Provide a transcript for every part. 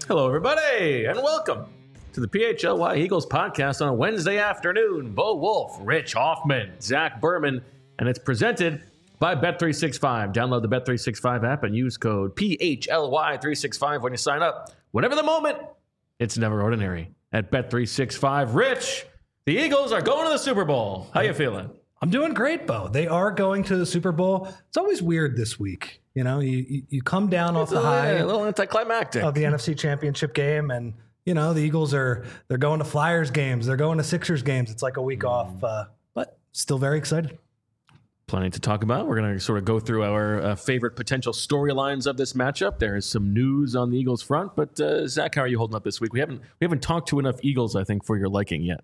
Hello, everybody, and welcome to the PHLY Eagles podcast on a Wednesday afternoon. Bo Wolf, Rich Hoffman, Zach Berman, and it's presented by Bet365. Download the Bet365 app and use code PHLY365 when you sign up. Whatever the moment, it's never ordinary at Bet365. Rich, the Eagles are going to the Super Bowl. How you feeling? I'm doing great, Bo. They are going to the Super Bowl. It's always weird this week. You know, you come down off the high a little anticlimactic of the NFC Championship game, and you know the Eagles they're going to Flyers games, they're going to Sixers games. It's like a week off, but still very excited. Plenty to talk about. We're going to sort of go through our favorite potential storylines of this matchup. There is some news on the Eagles front, but Zach, how are you holding up this week? We haven't talked to enough Eagles, I think, for your liking yet.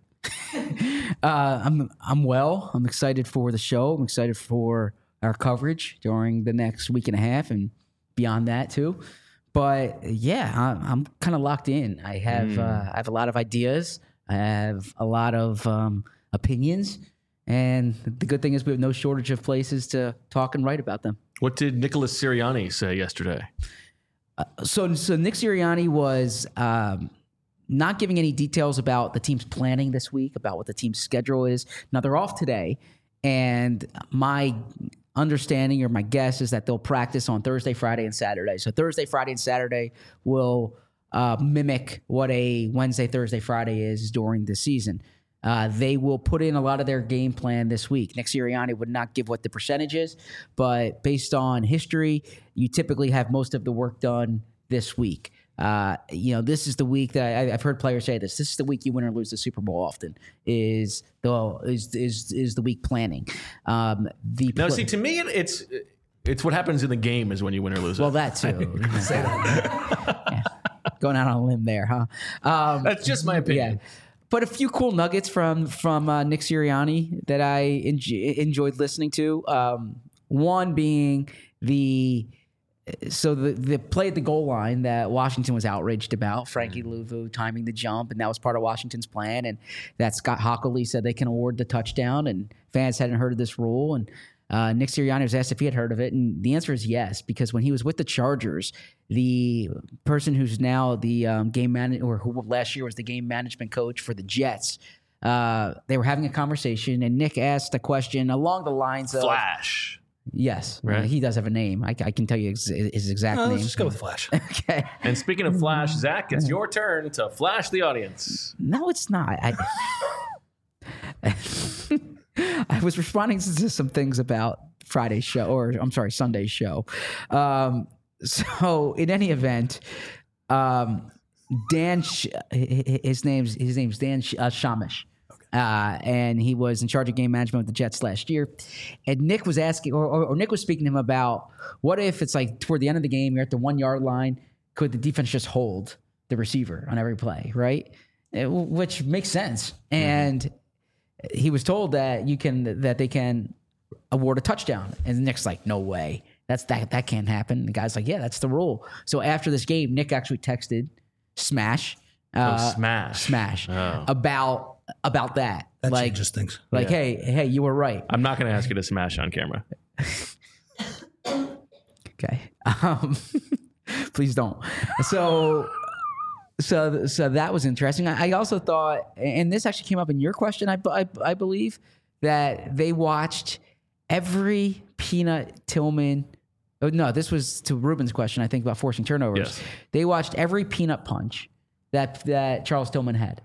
I'm well. I'm excited for the show. I'm excited for our coverage during the next week and a half and beyond that too. But yeah, I'm kind of locked in. I have a lot of ideas. I have a lot of opinions, and the good thing is we have no shortage of places to talk and write about them. What did Nicholas Sirianni say yesterday? So Nick Sirianni was not giving any details about the team's planning this week, about what the team's schedule is. Now, they're off today, and my understanding or my guess is that they'll practice on Thursday, Friday, and Saturday. So Thursday, Friday, and Saturday will mimic what a Wednesday, Thursday, Friday is during the season. They will put in a lot of their game plan this week. Nick Sirianni would not give what the percentage is, but based on history, you typically have most of the work done this week. This is the week that I've heard players say this. This is the week you win or lose the Super Bowl. Often is the week planning. See, to me, it's what happens in the game is when you win or lose. Well, that too. Say that. Yeah. Going out on a limb there, huh? That's just my opinion. Yeah. But a few cool nuggets from Nick Sirianni that I enjoyed listening to. One being the play at the goal line that Washington was outraged about, Frankie Louvu timing the jump, and that was part of Washington's plan, and that Scott Hockley said they can award the touchdown, and fans hadn't heard of this rule, and Nick Sirianni was asked if he had heard of it, and the answer is yes, because when he was with the Chargers, the person who's now the game manager, or who last year was the game management coach for the Jets, they were having a conversation, and Nick asked a question along the lines of Flash. Yes, right. He does have a name. I can tell you his exact name. Let's just go with Flash. Okay. And speaking of Flash, Zach, it's your turn to flash the audience. No, it's not. I was responding to some things about Friday's show, or I'm sorry, Sunday's show. So in any event, Dan, his name's Dan Shamish. And he was in charge of game management with the Jets last year. And Nick was asking, or Nick was speaking to him about, what if it's like toward the end of the game, you're at the 1 yard line, could the defense just hold the receiver on every play, right? Which makes sense. And he was told that they can award a touchdown. And Nick's like, no way. That can't happen. And the guy's like, yeah, that's the rule. So after this game, Nick actually texted Smash. Smash. About that. That like, changes things. Like, hey, you were right. I'm not going to ask you to smash on camera. Okay. Please don't. So that was interesting. I also thought, and this actually came up in your question, I believe, that they watched every Peanut Tillman. Oh, no, this was to Ruben's question, I think, about forcing turnovers. Yes. They watched every peanut punch that Charles Tillman had.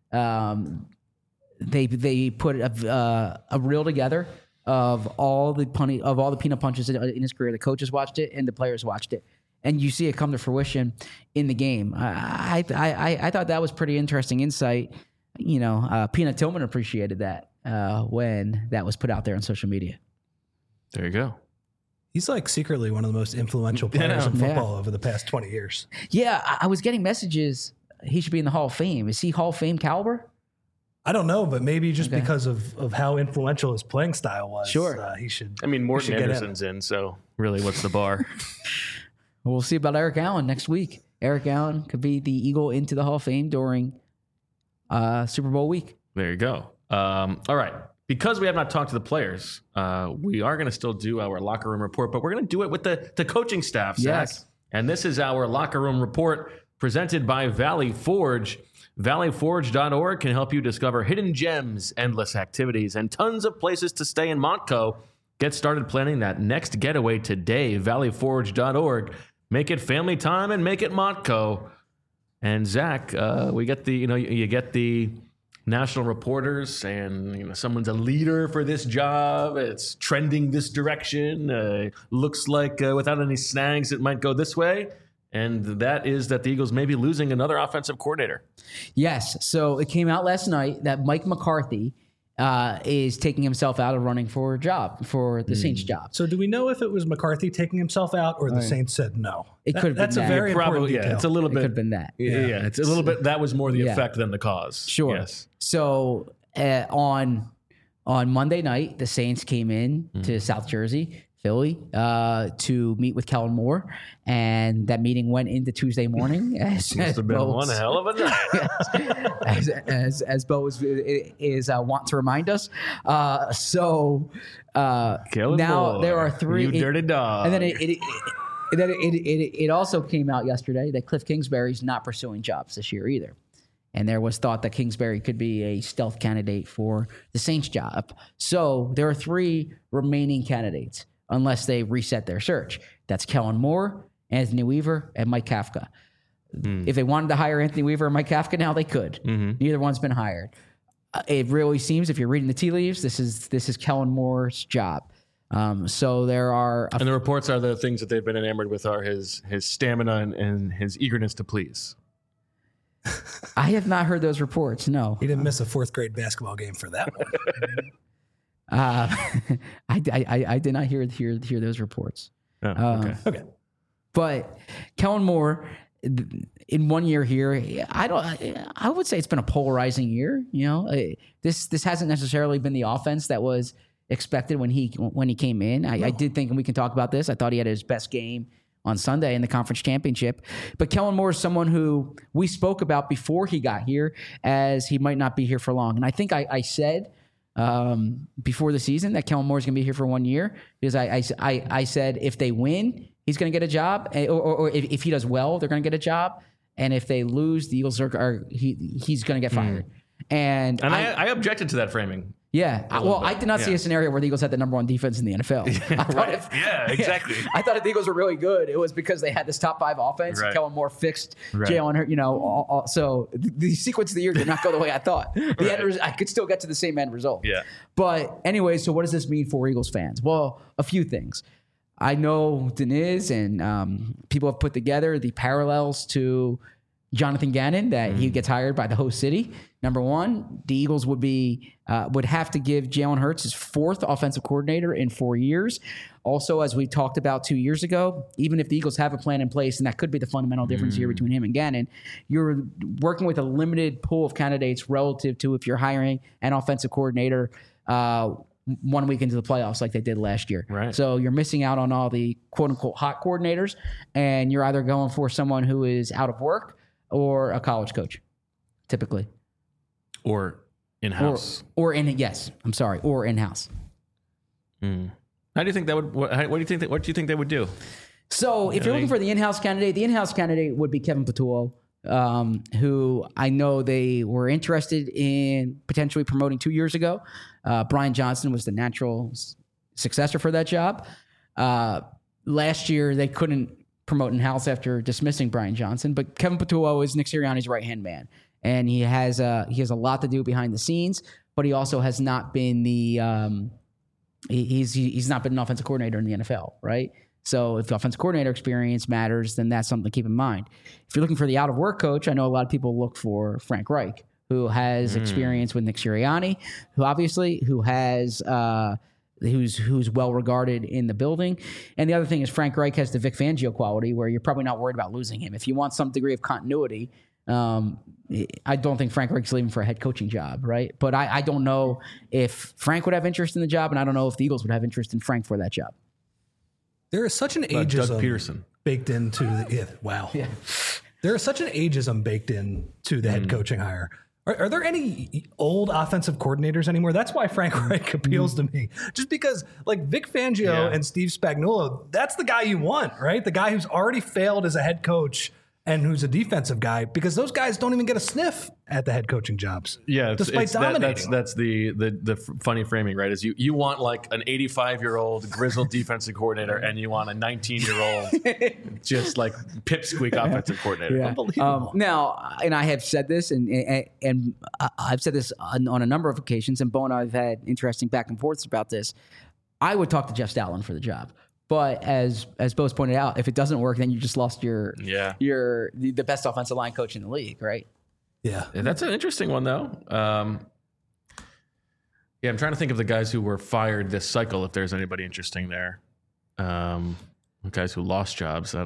They put a reel together of all the peanut punches in his career. The coaches watched it and the players watched it, and you see it come to fruition in the game. I thought that was pretty interesting insight. Peanut Tillman appreciated that when that was put out there on social media. There you go. He's like secretly one of the most influential players in football over the past 20 years. Yeah, I was getting messages he should be in the Hall of Fame. Is he Hall of Fame caliber? I don't know, but maybe just because of how influential his playing style was. Sure. He should. I mean, Morton Anderson's in, so really, what's the bar? We'll see about Eric Allen next week. Eric Allen could be the Eagle into the Hall of Fame during Super Bowl week. There you go. All right. Because we have not talked to the players, we are going to still do our locker room report, but we're going to do it with the coaching staff, Zach. Yes. And this is our locker room report presented by Valley Forge. ValleyForge.org can help you discover hidden gems, endless activities, and tons of places to stay in Montco. Get started planning that next getaway today. ValleyForge.org. Make it family time and make it Montco. And Zach, we get you get the national reporters, and someone's a leader for this job. It's trending this direction. Looks like without any snags, it might go this way. And that is that the Eagles may be losing another offensive coordinator. Yes. So it came out last night that Mike McCarthy is taking himself out of running for a job, for the Saints job. So do we know if it was McCarthy taking himself out or the Saints said no? It could have been That's that. a very important detail. It's a little bit. It could have been that. Yeah, it's a little bit. That was more the effect than the cause. Sure. Yes. So on Monday night, the Saints came in to South Jersey, Philly, to meet with Kellen Moore, and that meeting went into Tuesday morning. Must have been one hell of a night. as Bo is want to remind us. Kellen now Moore, there are three. You dirty dog. And then it also came out yesterday that Cliff Kingsbury's not pursuing jobs this year either. And there was thought that Kingsbury could be a stealth candidate for the Saints job. So there are three remaining candidates unless they reset their search. That's Kellen Moore, Anthony Weaver, and Mike Kafka. If they wanted to hire Anthony Weaver or Mike Kafka now, they could. Neither one's been hired. It really seems, if you're reading the tea leaves, this is Kellen Moore's job. So there are... and the reports are the things that they've been enamored with are his stamina and his eagerness to please. I have not heard those reports, no. He didn't miss a fourth grade basketball game for that one. I did not hear those reports. Oh, okay. But Kellen Moore, in 1 year here, I would say it's been a polarizing year. This hasn't necessarily been the offense that was expected when he came in. I did think, and we can talk about this, I thought he had his best game on Sunday in the conference championship. But Kellen Moore is someone who we spoke about before he got here as he might not be here for long. And I think I said before the season that Kellen Moore is going to be here for 1 year because I said if they win, he's going to get a job, or if he does well, they're going to get a job. And if they lose, the Eagles he's going to get fired. And I objected to that framing. Yeah. I did not see a scenario where the Eagles had the number one defense in the NFL. Exactly. I thought if the Eagles were really good, it was because they had this top five offense. Right. Kellen Moore fixed Jalen Hurts, so the sequence of the year did not go the way I thought. I could still get to the same end result. Yeah. But anyway, so what does this mean for Eagles fans? Well, a few things. I know Deniz and people have put together the parallels to Jonathan Gannon that he gets hired by the host city. Number one, the Eagles would have to give Jalen Hurts his fourth offensive coordinator in 4 years. Also, as we talked about 2 years ago, even if the Eagles have a plan in place, and that could be the fundamental difference here between him and Gannon, you're working with a limited pool of candidates relative to if you're hiring an offensive coordinator 1 week into the playoffs like they did last year. Right. So you're missing out on all the quote-unquote hot coordinators, and you're either going for someone who is out of work or a college coach, typically. Or in-house. Or in-house. How do you think that would? What do you think they would do? So if you're looking for the in-house candidate would be Kevin Patullo, who I know they were interested in potentially promoting 2 years ago. Brian Johnson was the natural successor for that job. Last year they couldn't promote in-house after dismissing Brian Johnson, but Kevin Patullo is Nick Sirianni's right-hand man. And he has a lot to do behind the scenes, but he also has not been he's not been an offensive coordinator in the NFL, right? So if the offensive coordinator experience matters, then that's something to keep in mind. If you're looking for the out of work coach, I know a lot of people look for Frank Reich, who has experience with Nick Sirianni, who has who's well regarded in the building. And the other thing is Frank Reich has the Vic Fangio quality where you're probably not worried about losing him. If you want some degree of continuity, I don't think Frank Reich's leaving for a head coaching job, right? But I don't know if Frank would have interest in the job, and I don't know if the Eagles would have interest in Frank for that job. There is such an ageism Doug Peterson baked into the There is such an ageism baked into the head coaching hire. Are there any old offensive coordinators anymore? That's why Frank Reich appeals to me. Just because, like, Vic Fangio and Steve Spagnuolo, that's the guy you want, right? The guy who's already failed as a head coach and who's a defensive guy, because those guys don't even get a sniff at the head coaching jobs. Yeah, despite dominating. That's the funny framing, right? Is you want like an 85-year-old grizzled defensive coordinator, and you want a 19-year-old just like pipsqueak offensive coordinator. Yeah. Unbelievable. Now, and I have said this, and I've said this on a number of occasions, and Bo and I have had interesting back and forths about this. I would talk to Jeff Stoutland for the job. But as Bo's pointed out, if it doesn't work, then you just lost the best offensive line coach in the league, right? Yeah. That's an interesting one, though. I'm trying to think of the guys who were fired this cycle, if there's anybody interesting there. Guys who lost jobs. I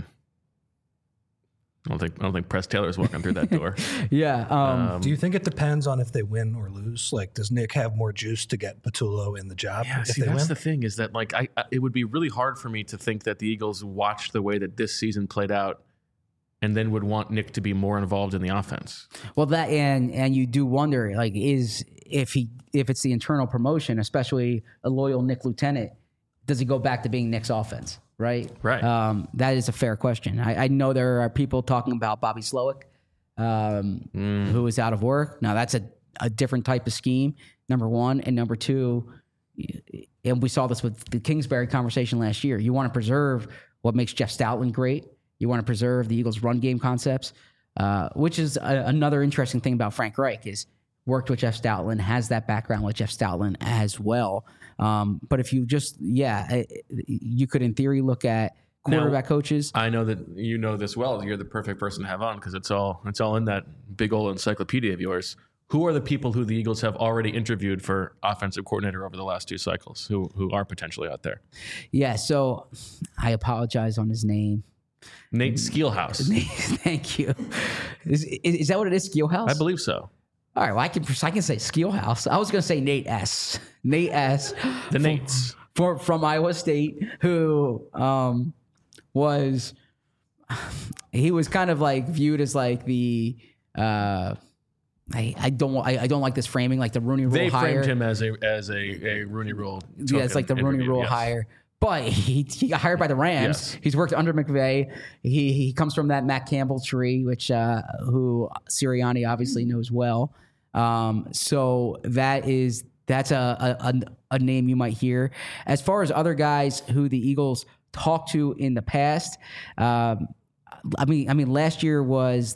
don't think Press Taylor's walking through that door. Yeah. Do you think it depends on if they win or lose? Like, does Nick have more juice to get Patullo in the job? Yeah, if they that's win? the thing, is that like it would be really hard for me to think that the Eagles watched the way that this season played out and then would want Nick to be more involved in the offense. Well, that and you do wonder, like, if it's the internal promotion, especially a loyal Nick lieutenant, does he go back to being Nick's offense? Right. That is a fair question. I know there are people talking about Bobby Slowick, who is out of work. Now, that's a different type of scheme, number one. And number two, and we saw this with the Kingsbury conversation last year, you want to preserve what makes Jeff Stoutland great. You want to preserve the Eagles' run game concepts, which is another interesting thing about Frank Reich, is worked with Jeff Stoutland, has that background with Jeff Stoutland as well. But if you just, you could in theory look at quarterback coaches. I know that you know this well. You're the perfect person to have on because it's all in that big old encyclopedia of yours. Who are the people who the Eagles have already interviewed for offensive coordinator over the last two cycles who are potentially out there? Yeah, so I apologize on his name. Nate Skeelhouse. Thank you. Is that what it is, Skeelhouse? I believe so. All right, well, I can say Skeelhouse. I was going to say Nate S. Nate S. The Nates. From Iowa State, who was kind of like viewed as like the I don't like this framing, like the Rooney Rule hire. They framed him as a Rooney Rule. Yeah, it's like the Rooney Rule hire. But he got hired by the Rams. Yes. He's worked under McVay. He comes from that Matt Campbell tree, which who Sirianni obviously knows well. So that's a name you might hear. As far as other guys who the Eagles talked to in the past, I mean, last year was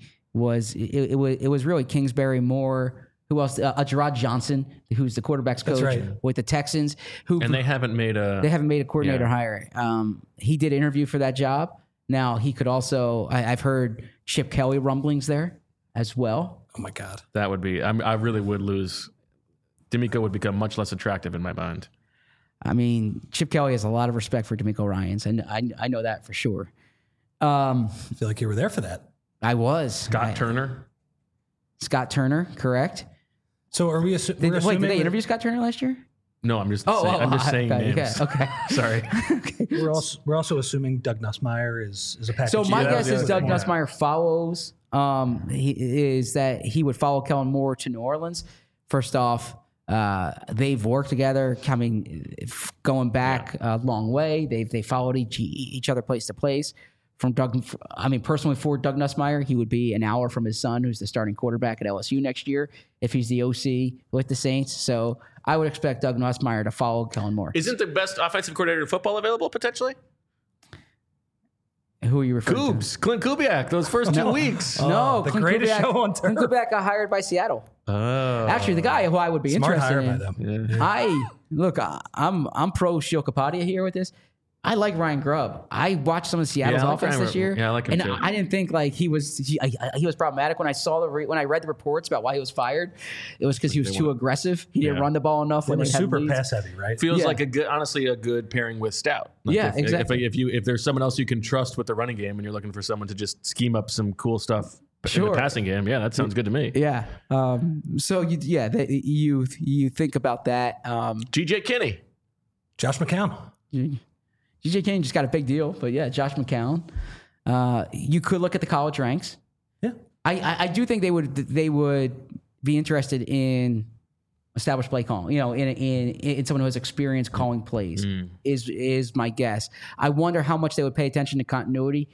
really Kingsbury, Moore. Who else? Gerard Johnson, who's the quarterback's coach with the Texans. And they haven't made a coordinator hire. He did interview for that job. Now he could also. I've heard Chip Kelly rumblings there as well. Oh my God, that would be. I really would lose. DeMeco would become much less attractive in my mind. I mean, Chip Kelly has a lot of respect for DeMeco Ryans, and I know that for sure. I feel like you were there for that. I was. Scott Turner, correct. So are we assuming? Did they interview Scott Turner last year? No, I'm just saying names. Yeah, okay. Sorry. Okay. We're also assuming Doug Nussmeier is a package. So my guess is Doug Nussmeier follows. He would follow Kellen Moore to New Orleans. First off, they've worked together, going back a long way. They followed each other place to place. Personally, for Doug Nussmeier, he would be an hour from his son, who's the starting quarterback at LSU next year, if he's the OC with the Saints. So I would expect Doug Nussmeier to follow Kellen Moore. Isn't the best offensive coordinator in football available potentially? Who are you referring to? Clint Kubiak, those first 2 weeks. No, the greatest show on turf. Clint Kubiak got hired by Seattle. Oh. Actually, the guy who I would be interested in. By them. Yeah. I'm pro Sheil Kapadia here with this. I like Ryan Grubb. I watched some of Seattle's offense this year. Yeah, I like him too. I didn't think like he was problematic when I read the reports about why he was fired. It was because he was too aggressive. He didn't run the ball enough. It was super pass heavy, right? Feels like a good pairing with Stout. Like exactly. If there's someone else you can trust with the running game, and you're looking for someone to just scheme up some cool stuff in the passing game, that sounds good to me. Yeah. So you think about that. G.J. Kinney, Josh McCown. G.J. Kinney just got a big deal, but yeah, Josh McCown. You could look at the college ranks. Yeah, I do think they would be interested in established play calling. In someone who has experience calling plays is my guess. I wonder how much they would pay attention to continuity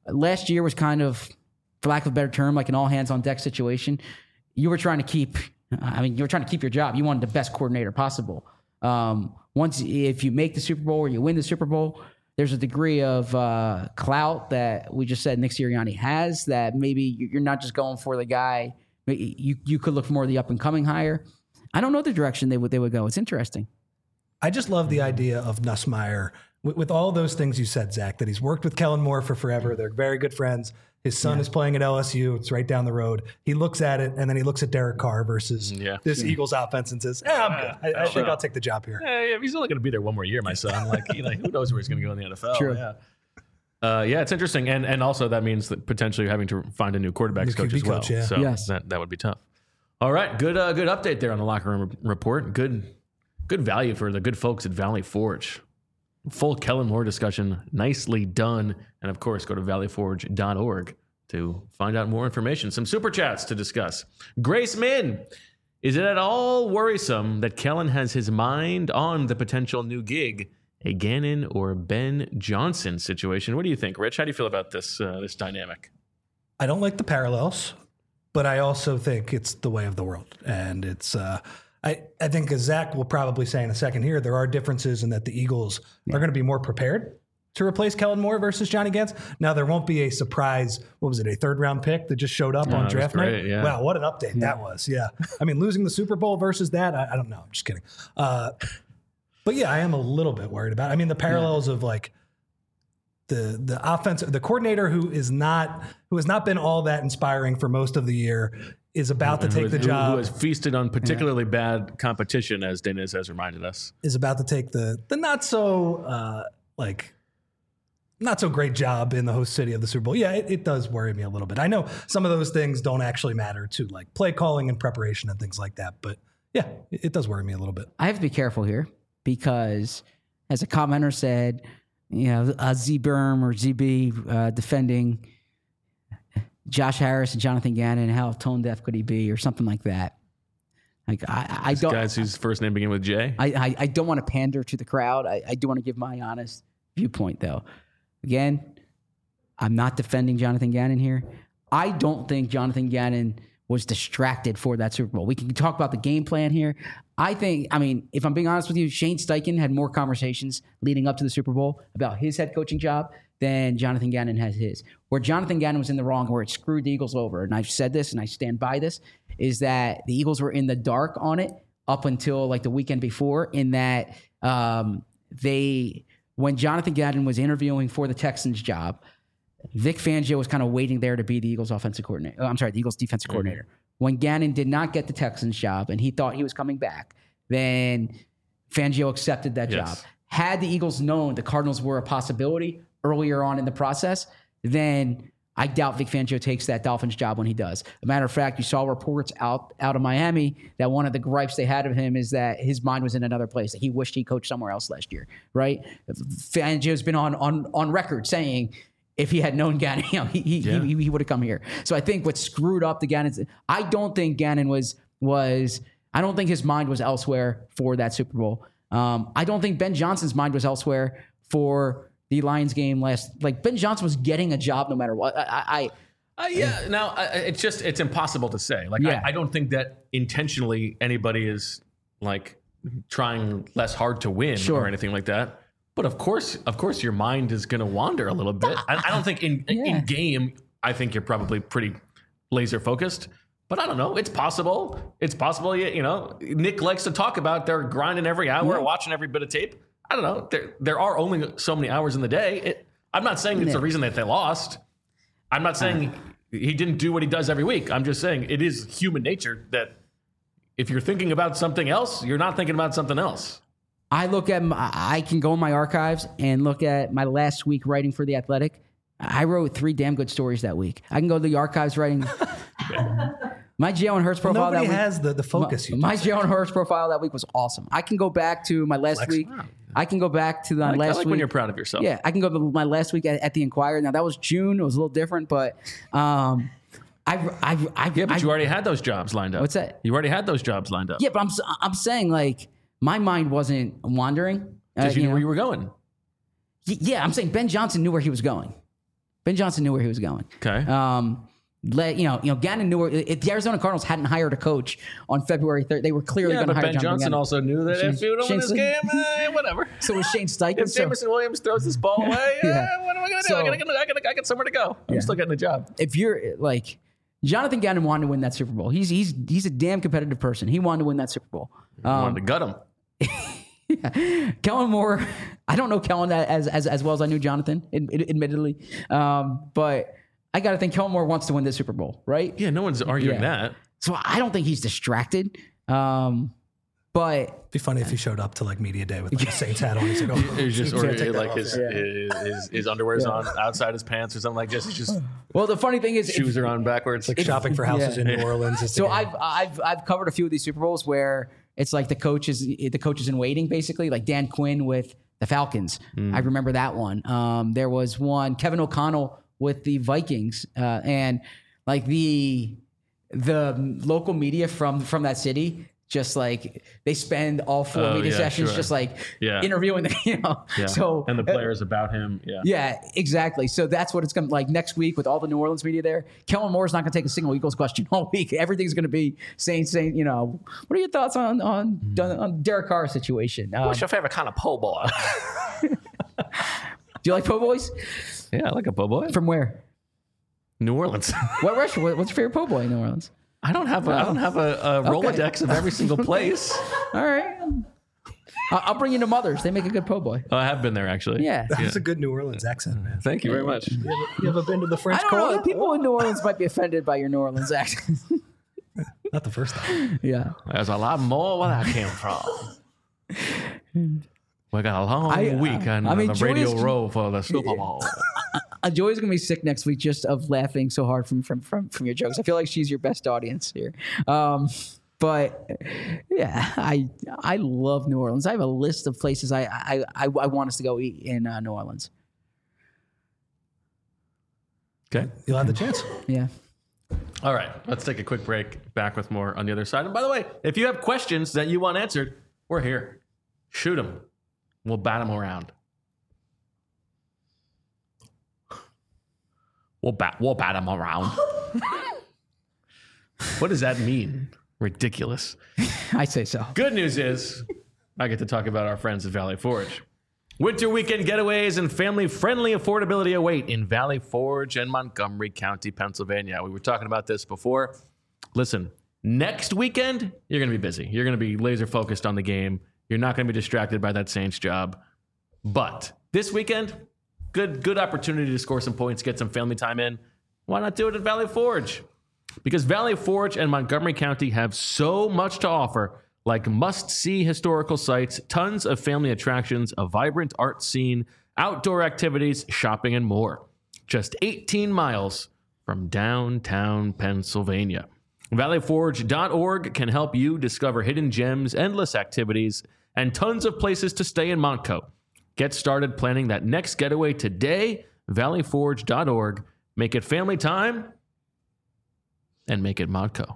last year was kind of, for lack of a better term, like an all hands on deck situation. You were trying to keep your job. You wanted the best coordinator possible. If you make the Super Bowl or you win the Super Bowl, there's a degree of clout that we just said Nick Sirianni has, that maybe you're not just going for the guy. You could look for more of the up and coming hire. I don't know the direction they would go. It's interesting. I just love the idea of Nussmeier with all those things you said, Zach, that he's worked with Kellen Moore for forever. They're very good friends. His son is playing at LSU. It's right down the road. He looks at it, and then he looks at Derek Carr versus this Eagles offense and says, I'm good. I think I'll take the job here. Yeah, he's only going to be there one more year, my son. Who knows where he's going to go in the NFL? True. Yeah. It's interesting. And also that means that potentially having to find a new quarterbacks coach as well. Coach, yeah. So that would be tough. All right. Good update there on the locker room report. Good value for the good folks at Valley Forge. Full Kellen Moore discussion, nicely done. And of course, go to valleyforge.org to find out more information. Some super chats to discuss. Grace Min, is it at all worrisome that Kellen has his mind on the potential new gig, a Gannon or Ben Johnson situation? What do you think, Rich? How do you feel about this dynamic? I don't like the parallels, but I also think it's the way of the world. And it's I think, as Zach will probably say in a second here, there are differences in that the Eagles are going to be more prepared to replace Kellen Moore versus Johnny Gantz. Now, there won't be a surprise, a 3rd-round pick that just showed up on draft night? Yeah. Wow, what an update that was. Yeah. I mean, losing the Super Bowl versus that, I don't know. I'm just kidding. But yeah, I am a little bit worried about it. I mean, the parallels of like the offense, the coordinator who has not been all that inspiring for most of the year is about to take the job. Who has feasted on particularly bad competition, as Dennis has reminded us. Is about to take the not so great job in the host city of the Super Bowl. Yeah, it does worry me a little bit. I know some of those things don't actually matter to like play calling and preparation and things like that. But yeah, it does worry me a little bit. I have to be careful here because, as a commenter said, Z-Berm or ZB defending Josh Harris and Jonathan Gannon, how tone deaf could he be, or something like that. Like I don't. Guys whose first name begin with J. I don't want to pander to the crowd. I do want to give my honest viewpoint, though. Again, I'm not defending Jonathan Gannon here. I don't think Jonathan Gannon was distracted for that Super Bowl. We can talk about the game plan here. I mean, if I'm being honest with you, Shane Steichen had more conversations leading up to the Super Bowl about his head coaching job than Jonathan Gannon has his. Where Jonathan Gannon was in the wrong, where it screwed the Eagles over, and I've said this and I stand by this, is that the Eagles were in the dark on it up until like the weekend before, in that when Jonathan Gannon was interviewing for the Texans job, Vic Fangio was kind of waiting there to be the Eagles offensive coordinator. The Eagles defensive coordinator. When Gannon did not get the Texans job and he thought he was coming back, then Fangio accepted that job. Had the Eagles known the Cardinals were a possibility earlier on in the process, then I doubt Vic Fangio takes that Dolphins job when he does. As a matter of fact, you saw reports out of Miami that one of the gripes they had of him is that his mind was in another place, that he wished he coached somewhere else last year, right? Fangio's been on record saying if he had known Gannon, he would have come here. So I think what screwed up the Gannon, I don't think Gannon was I don't think his mind was elsewhere for that Super Bowl. I don't think Ben Johnson's mind was elsewhere for the Lions game Ben Johnson was getting a job no matter what. It's impossible to say. I don't think that intentionally anybody is like trying less hard to win or anything like that. But of course, your mind is going to wander a little bit. I don't think in game, I think you're probably pretty laser focused. But I don't know. It's possible. It's possible. Nick likes to talk about they're grinding every hour, watching every bit of tape. I don't know. There are only so many hours in the day. I'm not saying it's the reason that they lost. I'm not saying he didn't do what he does every week. I'm just saying it is human nature that if you're thinking about something else, you're not thinking about something else. I can go in my archives and look at my last week writing for The Athletic. I wrote 3 damn good stories that week. I can go to the archives writing. My Jalen Hurts profile that week. Nobody has the focus. My Jalen Hurts profile that week was awesome. I can go back to my last week. I can go back to my last week. When you're proud of yourself. Yeah, I can go to my last week at the Inquirer. Now, that was June. It was a little different, but but you already had those jobs lined up. What's that? You already had those jobs lined up. Yeah, but I'm saying, like, my mind wasn't wandering. Because you knew where you were going. Yeah, I'm saying Ben Johnson knew where he was going. Ben Johnson knew where he was going. Okay. Gannon knew if the Arizona Cardinals hadn't hired a coach on February 3rd, they were clearly going to hire Ben Johnson Gannon. also knew that if you don't win this game, whatever. So was Shane Steichen. If Jameson Williams throws this ball away, what am I going to do? So- I got somewhere to go. I'm still getting a job. If you're like Jonathan Gannon wanted to win that Super Bowl. He's a damn competitive person. He wanted to win that Super Bowl. Wanted to gut him. Kellen Moore, I don't know Kellen as well as I knew Jonathan, admittedly. But I got to think Kellen Moore wants to win this Super Bowl, right? Yeah, no one's arguing that. So I don't think he's distracted. But It'd be funny if he showed up to like media day with like a Saints hat on. He's like, oh, It was just can't take that like off. his underwear's on outside his pants or something like this. He's just well, the funny thing is, shoes are on backwards. Like shopping for houses in New Orleans. Is so the game. I've covered a few of these Super Bowls where it's like the coaches in waiting, basically, like Dan Quinn with the Falcons. I remember that one. There was one Kevin O'Connell with the Vikings, and like the local media from that city. Just like they spend all four media sessions sure. just like interviewing them, Yeah. So and the players about him. Yeah. Yeah, exactly. So that's what it's going to like next week with all the New Orleans media there. Kellen Moore's not going to take a single Eagles question all week. Everything's going to be saying, what are your thoughts on Derek Carr's situation? What's your favorite kind of po' boy? Do you like po' boys? Yeah, I like a po' boy. From where? New Orleans. What restaurant? What's your favorite po' boy in New Orleans? I don't have a Rolodex of every single place. All right. I'll bring you to Mother's. They make a good po' boy. Oh, I have been there actually. Yeah. That's a good New Orleans accent, man. Thank you very much. You ever been to the French I don't know. Quarter? People in New Orleans might be offended by your New Orleans accent. Not the first time. Yeah. There's a lot more where that came from. We got a long week on the Radio Joy's- Row for the Super Bowl. Joy's gonna be sick next week just of laughing so hard from your jokes. I feel like she's your best audience here. But yeah, I love New Orleans. I have a list of places I want us to go eat in New Orleans. Okay. You'll have the chance. Yeah. All right. Let's take a quick break. Back with more on the other side. And by the way, if you have questions that you want answered, we're here. Shoot them. We'll bat them around. We'll bat them around. What does that mean? Ridiculous. I say so. Good news is I get to talk about our friends at Valley Forge. Winter weekend getaways and family-friendly affordability await in Valley Forge and Montgomery County, Pennsylvania. We were talking about this before. Listen, next weekend, you're going to be busy. You're going to be laser-focused on the game. You're not going to be distracted by that Saints job. But this weekend, good opportunity to score some points, get some family time in. Why not do it at Valley Forge? Because Valley Forge and Montgomery County have so much to offer, like must-see historical sites, tons of family attractions, a vibrant art scene, outdoor activities, shopping, and more. Just 18 miles from downtown Pennsylvania. ValleyForge.org can help you discover hidden gems, endless activities, and tons of places to stay in Montco. Get started planning that next getaway today. ValleyForge.org. Make it family time and make it Montco.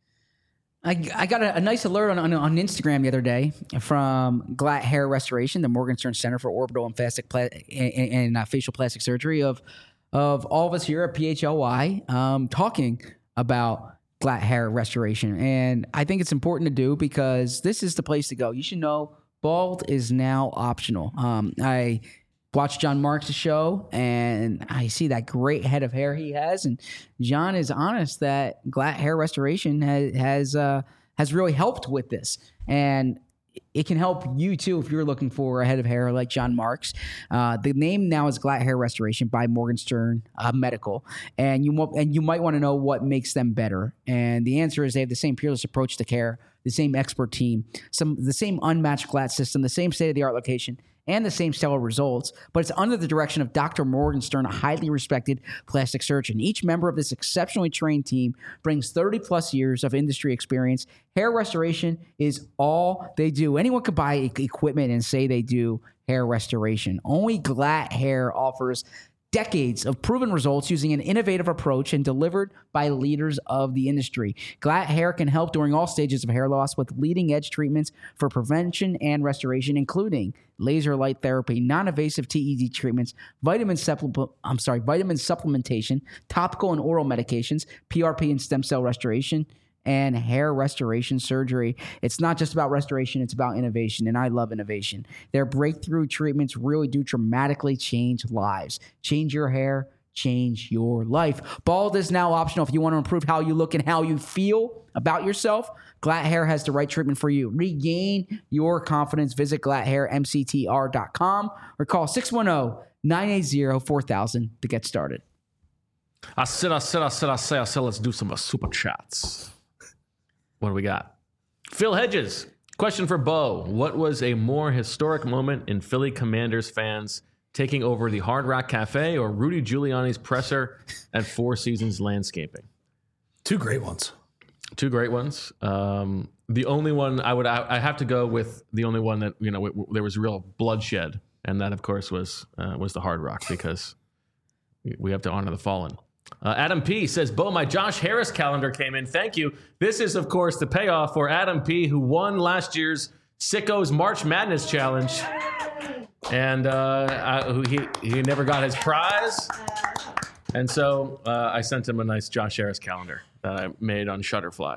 I got a nice alert on Instagram the other day from Glatt Hair Restoration, the Morgenstern Center for Orbital and Facial Plastic Surgery, of all of us here at PHLY talking about Glatt Hair Restoration. And I think it's important to do because this is the place to go. You should know bald is now optional. I watched John Marks' show, and I see that great head of hair he has. And John is honest that Glatt Hair Restoration has really helped with this. And it can help you, too, if you're looking for a head of hair like John Marks. The name now is Glatt Hair Restoration by Morgenstern Medical. And you might want to know what makes them better. And the answer is they have the same peerless approach to care, the same expert team, the same unmatched Glatt system, the same state-of-the-art location, and the same stellar results, but it's under the direction of Dr. Morgenstern, a highly respected plastic surgeon. Each member of this exceptionally trained team brings 30-plus years of industry experience. Hair restoration is all they do. Anyone could buy equipment and say they do hair restoration. Only Glatt Hair offers decades of proven results using an innovative approach and delivered by leaders of the industry. Glatt Hair can help during all stages of hair loss with leading-edge treatments for prevention and restoration, including laser light therapy, non-invasive TED treatments, vitamin supplementation, topical and oral medications, PRP and stem cell restoration, and hair restoration surgery. It's not just about restoration, it's about innovation, and I love innovation. Their breakthrough treatments really do dramatically change lives. Change your hair, change your life. Bald is now optional if you want to improve how you look and how you feel about yourself. Glatt Hair has the right treatment for you. Regain your confidence. Visit glatthairmctr.com or call 610-980-4000 to get started. I said, let's do some super chats. What do we got? Phil Hedges, question for Bo. What was a more historic moment in Philly Commanders fans taking over the Hard Rock Cafe or Rudy Giuliani's presser at Four Seasons Landscaping? Two great ones. Two great ones. The only one I have to go with the only one that, there was real bloodshed. And that, of course, was the Hard Rock, because we have to honor the fallen. Adam P. says, Bo, my Josh Harris calendar came in. Thank you. This is, of course, the payoff for Adam P., who won last year's Sicko's March Madness Challenge. And he never got his prize. And so I sent him a nice Josh Harris calendar that I made on Shutterfly.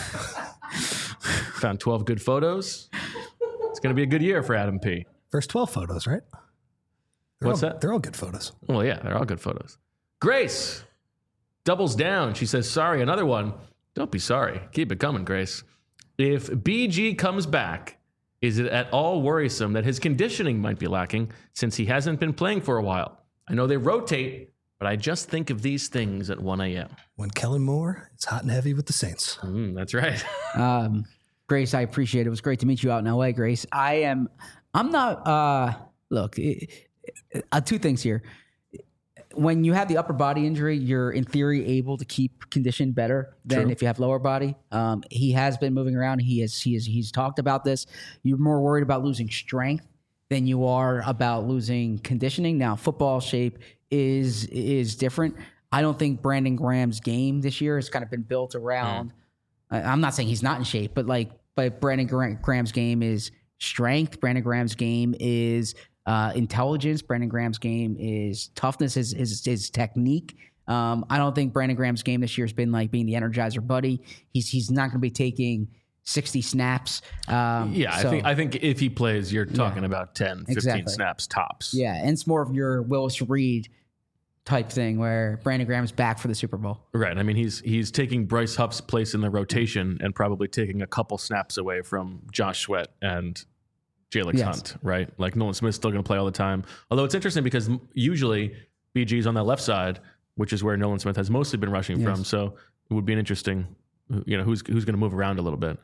Found 12 good photos. It's going to be a good year for Adam P. First 12 photos, right? What's that? They're all good photos. Well, yeah, they're all good photos. Grace doubles down. She says, sorry, another one. Don't be sorry. Keep it coming, Grace. If BG comes back, is it at all worrisome that his conditioning might be lacking since he hasn't been playing for a while? I know they rotate, but I just think of these things at 1 a.m. When Kellen Moore is hot and heavy with the Saints. That's right. Grace, I appreciate it. It was great to meet you out in L.A., Grace. I'm not, look, two things here. When you have the upper body injury, you're in theory able to keep condition better than True. if you have lower body. He has been moving around. He's talked about this. You're more worried about losing strength than you are about losing conditioning. Now, football shape is different. I don't think Brandon Graham's game this year has kind of been built around. I'm not saying he's not in shape, but Brandon Graham's game is strength. Brandon Graham's game is intelligence. Brandon Graham's game is toughness, his technique. I don't think Brandon Graham's game this year has been like being the Energizer Buddy. He's not going to be taking 60 snaps. I think if he plays, you're talking about 10, 15 snaps tops. Yeah, and it's more of your Willis Reed type thing where Brandon Graham's back for the Super Bowl. Right. I mean, he's taking Bryce Huff's place in the rotation and probably taking a couple snaps away from Josh Sweat and Jalen Hunt, right? Like Nolan Smith's still going to play all the time. Although it's interesting because usually BG's on that left side, which is where Nolan Smith has mostly been rushing from. So it would be an interesting, who's going to move around a little bit.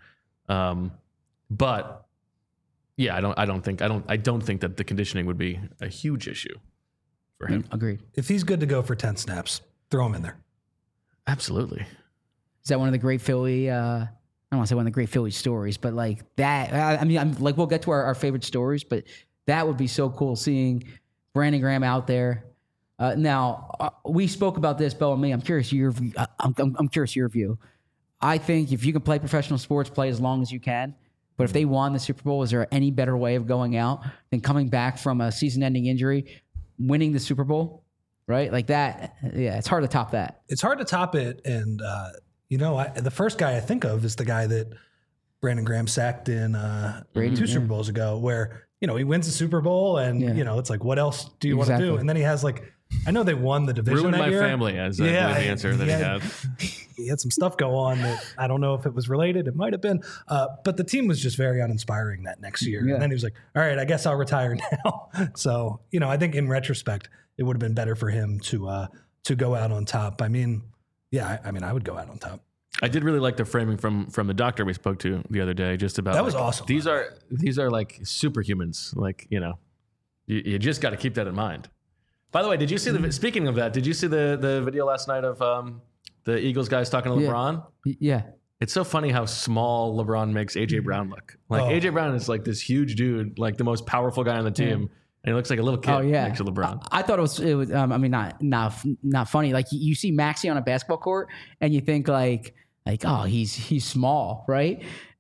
But yeah, I don't think that the conditioning would be a huge issue for him. Agreed. If he's good to go for 10 snaps, throw him in there. Absolutely. Is that one of the great Philly? I don't want to say one of the great Philly stories, but like that. I mean, I'm like, we'll get to our favorite stories, but that would be so cool seeing Brandon Graham out there. Now we spoke about this, Bo and me. I'm curious your view. I'm curious your view. I think if you can play professional sports, play as long as you can. But if they won the Super Bowl, is there any better way of going out than coming back from a season-ending injury, winning the Super Bowl, right? Like that. Yeah, it's hard to top that. It's hard to top it. And, the first guy I think of is the guy that Brandon Graham sacked in two Super Bowls ago where, he wins the Super Bowl and, it's like, what else do you want to do? And then he has I know they won the division Ruined that my year. family as the answer that he had. He had some stuff go on that I don't know if it was related. It might have been. But the team was just very uninspiring that next year. Yeah. And then he was like, all right, I guess I'll retire now. So, I think in retrospect, it would have been better for him to go out on top. I mean, I would go out on top. I did really like the framing from the doctor we spoke to the other day, just about that was awesome. These are like superhumans. Like, you just got to keep that in mind. By the way, did you see speaking of that, did you see the video last night of the Eagles guys talking to LeBron? Yeah. It's so funny how small LeBron makes AJ Brown look. Like AJ Brown is like this huge dude, like the most powerful guy on the team. And he looks like a little kid next to LeBron. I thought it was I mean, not funny. Like you see Maxey on a basketball court and you think like, oh, he's small, right?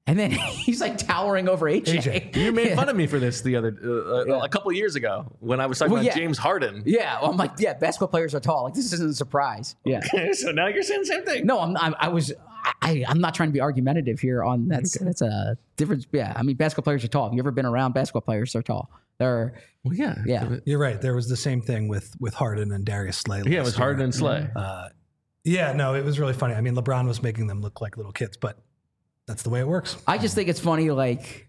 And then he's like towering over AJ. You made fun of me for this a couple of years ago when I was talking about James Harden. Yeah, well, I'm like, basketball players are tall. Like, this isn't a surprise. Yeah. Okay, so now you're saying the same thing. No, I'm not trying to be argumentative here on that's a difference. Yeah, I mean, basketball players are tall. Have you ever been around basketball players? They're tall. They're yeah. You're right. There was the same thing with Harden and Darius Slay. Yeah, it was Harden and Slay. It was really funny. I mean, LeBron was making them look like little kids, but that's the way it works. I just think it's funny, like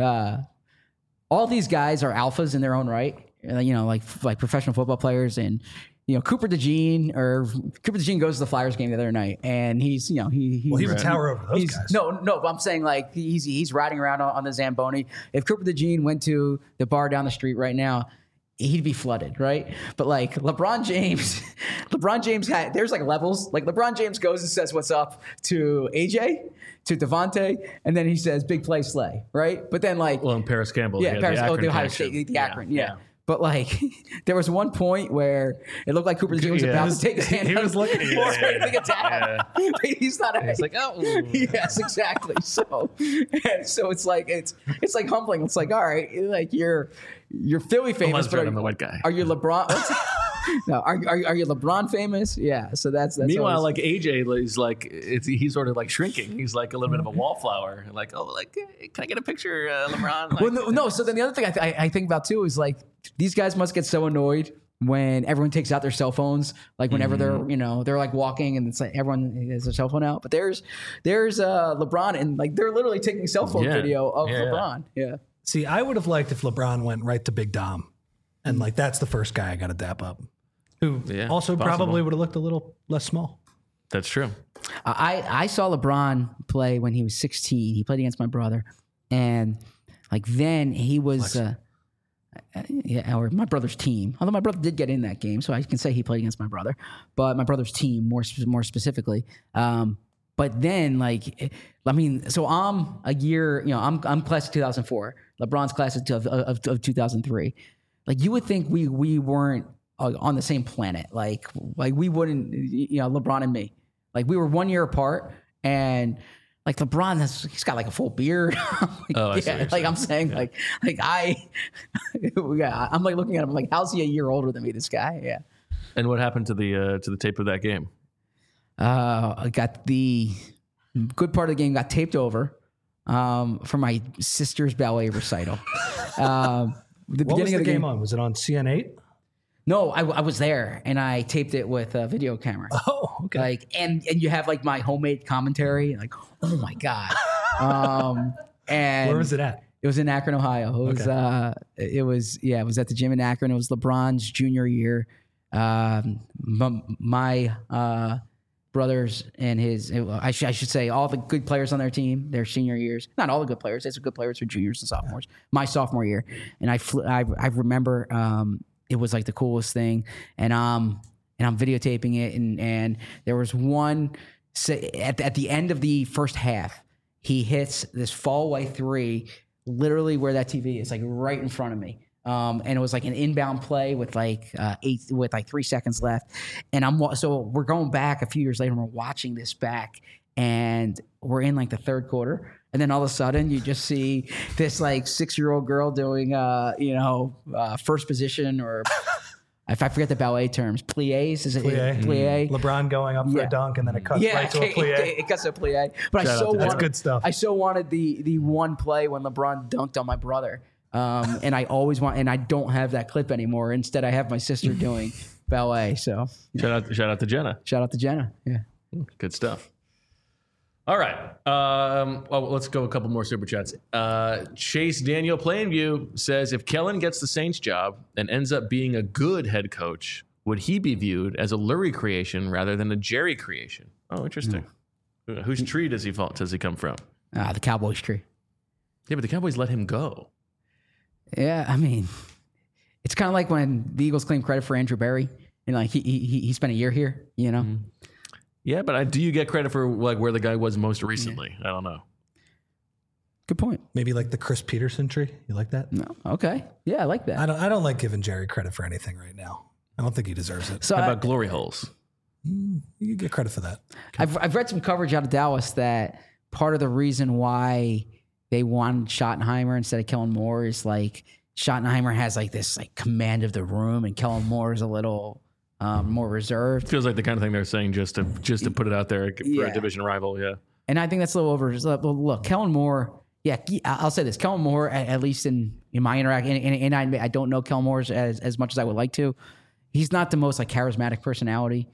all these guys are alphas in their own right. You know, like professional football players, and Cooper DeJean goes to the Flyers game the other night, and he's he would tower over those guys. No, but I'm saying like he's riding around on the Zamboni. If Cooper DeJean went to the bar down the street right now, he'd be flooded, right? But like LeBron James there's like levels. Like LeBron James goes and says what's up to AJ, to Devontae, and then he says big play Slay, right? But then and Paris Campbell, the Ohio State, the Akron, yeah. But like, there was one point where it looked like Cooper DeJean was about to take his hand. He was looking for it. He's not. He's like, oh, yes, exactly. So it's like humbling. It's like, all right, like you're Philly famous, but I'm the white guy. Are you LeBron? No, are you LeBron famous? Yeah. So that's meanwhile, like AJ is like he's sort of like shrinking. He's like a little bit of a wallflower. Like, can I get a picture, LeBron? Like, well, no. So then the other thing I think about too is like these guys must get so annoyed when everyone takes out their cell phones. Like whenever they're like walking and it's like everyone has their cell phone out. But there's LeBron and like they're literally taking cell phone video of LeBron. Yeah. See, I would have liked if LeBron went right to Big Dom, and like that's the first guy I got to dap up. Who also probably would have looked a little less small. That's true. I saw LeBron play when he was 16. He played against my brother, and like then he was, or my brother's team. Although my brother did get in that game, so I can say he played against my brother. But my brother's team more specifically. But then so I'm a year. I'm class of 2004. LeBron's class of 2003. Like you would think we weren't on the same planet, like we wouldn't, LeBron and me, like we were 1 year apart, and like LeBron, he's got like a full beard. I'm saying, I'm like looking at him like, how's he a year older than me? This guy, yeah. And what happened to the tape of that game? I got the good part of the game got taped over for my sister's ballet recital. What was the game on? Was it on CN8? No, I was there and I taped it with a video camera. Oh, okay. Like, and you have like my homemade commentary. Like, oh my god. And where was it at? It was in Akron, Ohio. It was at the gym in Akron. It was LeBron's junior year. My brothers and I should say all the good players on their team, their senior years. Not all the good players. There's some good players for juniors and sophomores. My sophomore year, and I remember. It was like the coolest thing, and I'm videotaping it, and there was one at the end of the first half, he hits this fall away three, literally where that TV is, like right in front of me, and it was like an inbound play with like 3 seconds left, and so we're going back a few years later, and we're watching this back, and we're in like the third quarter. And then all of a sudden, you just see this like 6-year-old girl doing, first position, or if I forget the ballet terms, pliés. Is it plie? LeBron going up for a dunk, and then it cuts right to a plie. It cuts to a plie. But that's good stuff. I so wanted the one play when LeBron dunked on my brother, and I always want, and I don't have that clip anymore. Instead, I have my sister doing ballet. So shout out to Jenna. Shout out to Jenna. Yeah, good stuff. All right. Let's go a couple more super chats. Chase Daniel Plainview says, if Kellen gets the Saints job and ends up being a good head coach, would he be viewed as a Lurie creation rather than a Jerry creation? Oh, interesting. Whose tree does he come from? The Cowboys tree. Yeah, but the Cowboys let him go. Yeah, I mean, it's kind of like when the Eagles claim credit for Andrew Berry, and like he spent a year here, Mm-hmm. Yeah, but do you get credit for like where the guy was most recently? I don't know. Good point. Maybe like the Chris Peterson tree. You like that? No. Okay. Yeah, I like that. I don't like giving Jerry credit for anything right now. I don't think he deserves it. So how about glory holes? You get credit for that. I've read some coverage out of Dallas that part of the reason why they wanted Schottenheimer instead of Kellen Moore is like Schottenheimer has like this like command of the room, and Kellen Moore is a little more reserved. Feels like the kind of thing they're saying just to put it out there for a division rival. Yeah, and I think that's a little over. Look, Kellen Moore. Yeah, I'll say this: Kellen Moore, at least in my interaction, and I don't know Kellen Moore as much as I would like to. He's not the most like charismatic personality,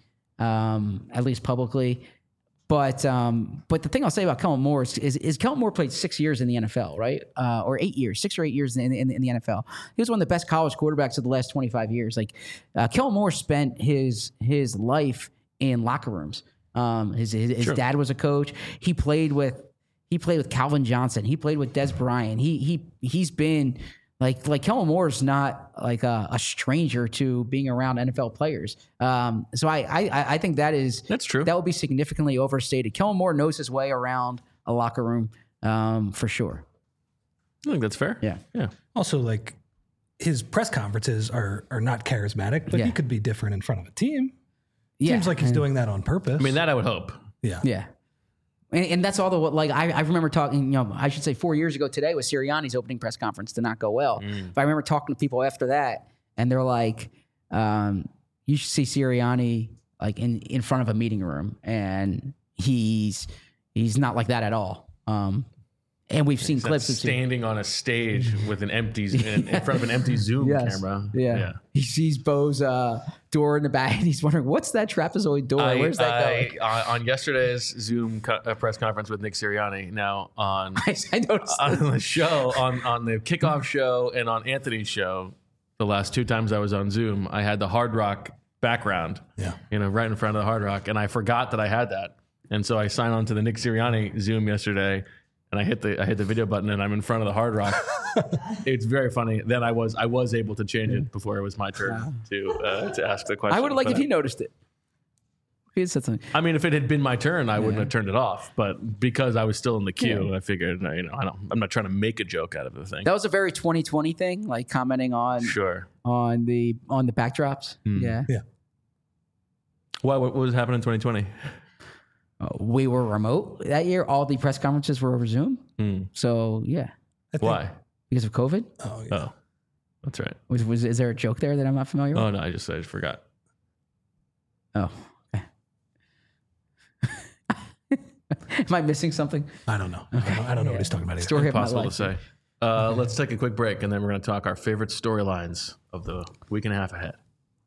at least publicly. But the thing I'll say about Kellen Moore is Kellen Moore played 6 years in the NFL, right? Or 8 years, 6 or 8 years in the NFL. He was one of the best college quarterbacks of the last 25 years. Like Kellen Moore spent his life in locker rooms. His dad was a coach. He played with Calvin Johnson. He played with Des Bryant. He's been like Kellen Moore is not like a stranger to being around NFL players. So I think that's true. That would be significantly overstated. Kellen Moore knows his way around a locker room for sure. I think that's fair. Yeah. Also, like his press conferences are not charismatic, but he could be different in front of a team. Seems like he's doing that on purpose. I mean, that I would hope. Yeah. And that's all I remember talking, I should say 4 years ago today was Sirianni's opening press conference did not go well. But I remember talking to people after that, and they're like, you should see Sirianni like in front of a meeting room, and he's not like that at all. And we've seen clips of standing on a stage with an empty in front of an empty Zoom camera. Yeah. He sees Bo's door in the back, and he's wondering, what's that trapezoid door? Where's that going? On yesterday's Zoom press conference with Nick Sirianni, now on I noticed on the show, on the kickoff show and on Anthony's show, the last 2 times I was on Zoom, I had the Hard Rock background, right in front of the Hard Rock, and I forgot that I had that, and so I signed on to the Nick Sirianni Zoom yesterday. And I hit the video button, and I'm in front of the Hard Rock. It's very funny. Then I was able to change it before it was my turn to ask the question. I would have liked if he noticed it. If he had said something. I mean, if it had been my turn, I wouldn't have turned it off. But because I was still in the queue, I figured, I'm not trying to make a joke out of the thing. That was a very 2020 thing, like commenting on on the backdrops. Yeah. What was happening in 2020? We were remote that year. All the press conferences were over Zoom. So, yeah. Why? Because of COVID? Oh, that's right. Is there a joke there that I'm not familiar with? Oh, no, I just forgot. Oh, okay. Am I missing something? I don't know. I don't know what he's talking about either. Story Impossible to say. Let's take a quick break, and then we're going to talk our favorite storylines of the week and a half ahead.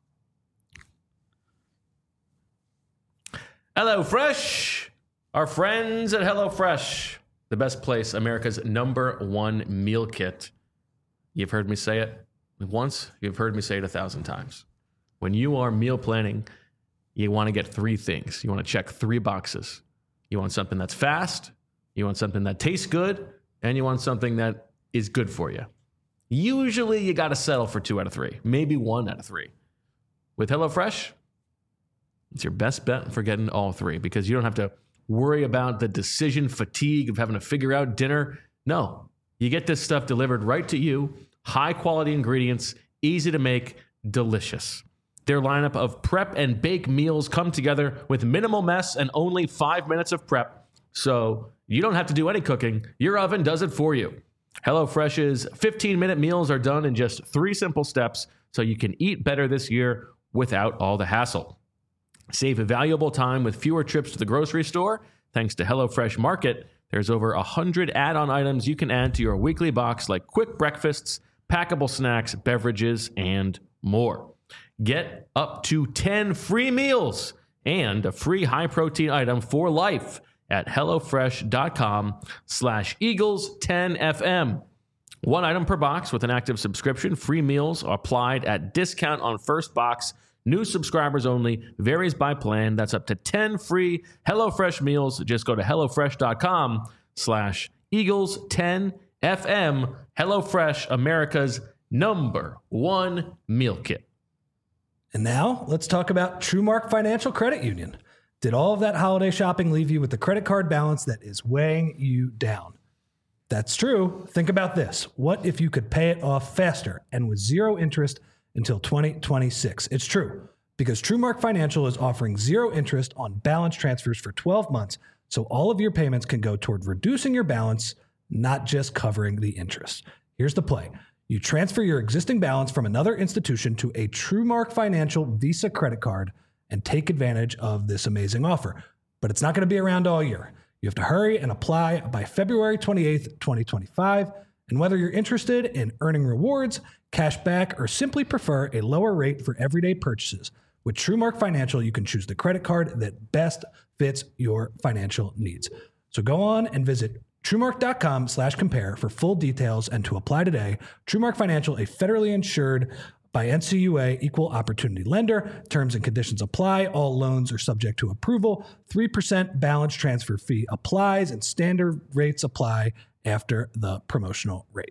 HelloFresh, our friends at HelloFresh, the best place, America's #1 meal kit. You've heard me say it once, you've heard me say it 1,000 times. When you are meal planning, you want to get 3 things. You want to check 3 boxes. You want something that's fast, you want something that tastes good, and you want something that is good for you. Usually you got to settle for 2 out of 3, maybe 1 out of 3. With HelloFresh, it's your best bet for getting all 3 because you don't have to worry about the decision fatigue of having to figure out dinner. No, you get this stuff delivered right to you. High quality ingredients, easy to make, delicious. Their lineup of prep and bake meals come together with minimal mess and only 5 minutes of prep. So you don't have to do any cooking. Your oven does it for you. HelloFresh's 15-minute meals are done in just 3 simple steps so you can eat better this year without all the hassle. Save valuable time with fewer trips to the grocery store. Thanks to HelloFresh Market, there's over 100 add-on items you can add to your weekly box like quick breakfasts, packable snacks, beverages, and more. Get up to 10 free meals and a free high-protein item for life at HelloFresh.com/Eagles10FM. 1 item per box with an active subscription. Free meals are applied at discount on first box. New subscribers only. Varies by plan. That's up to 10 free HelloFresh meals. Just go to HelloFresh.com/Eagles10FM. HelloFresh, America's #1 meal kit. And now let's talk about TrueMark Financial Credit Union. Did all of that holiday shopping leave you with a credit card balance that is weighing you down? That's true. Think about this. What if you could pay it off faster and with 0 interest until 2026? It's true. Because TrueMark Financial is offering 0 interest on balance transfers for 12 months, so all of your payments can go toward reducing your balance, not just covering the interest. Here's the play. You transfer your existing balance from another institution to a TrueMark Financial Visa credit card and take advantage of this amazing offer. But it's not going to be around all year. You have to hurry and apply by February 28th, 2025. And whether you're interested in earning rewards, cash back, or simply prefer a lower rate for everyday purchases, with TrueMark Financial, you can choose the credit card that best fits your financial needs. So go on and visit TrueMark.com/compare for full details and to apply today. TrueMark Financial, a federally insured by NCUA equal opportunity lender. Terms and conditions apply. All loans are subject to approval. 3% balance transfer fee applies and standard rates apply after the promotional rate.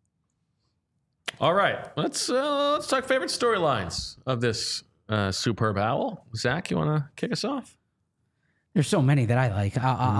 All right, let's talk favorite storylines of this superb owl. Zach, you want to kick us off? There's so many that I like.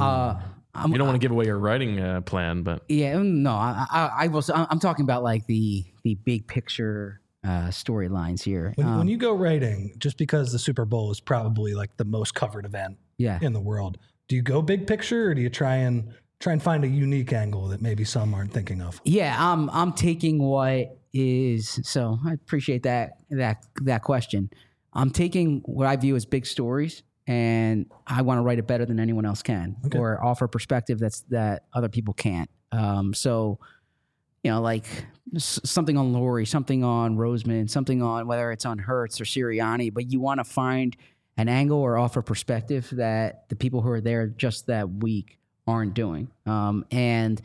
You don't want to give away your writing plan, but Yeah, no, I will. I'm talking about like the big picture storylines here. When you go writing, just because the Super Bowl is probably like the most covered event in the world, do you go big picture or do you try and find a unique angle that maybe some aren't thinking of? Yeah, I'm taking what is. So I appreciate that question. I'm taking what I view as big stories, and I want to write it better than anyone else can, or offer a perspective that other people can't. So, like something on Laurie, something on Roseman, something on whether it's on Hurts or Sirianni, but you want to find an angle or offer perspective that the people who are there just that week aren't doing. And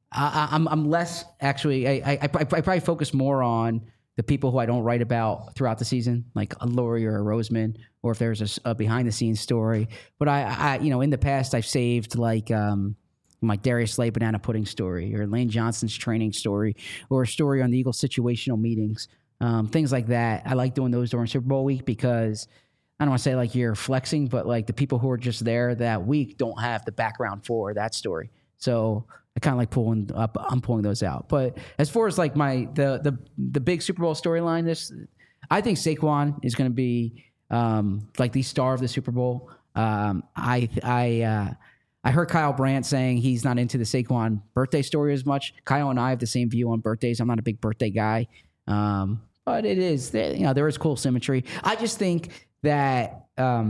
I'm less actually. I probably focus more on the people who I don't write about throughout the season, like a Laurie or a Roseman, or if there's a behind the scenes story. But I in the past I've saved like Darius Slay banana pudding story, or Lane Johnson's training story, or a story on the Eagles situational meetings, things like that. I like doing those during Super Bowl week because I don't want to say like you're flexing, but like the people who are just there that week don't have the background for that story. So I kind of like I'm pulling those out. But as far as like the big Super Bowl storyline, I think Saquon is going to be like the star of the Super Bowl. I heard Kyle Brandt saying he's not into the Saquon birthday story as much. Kyle and I have the same view on birthdays. I'm not a big birthday guy, but it is there is cool symmetry. I just think that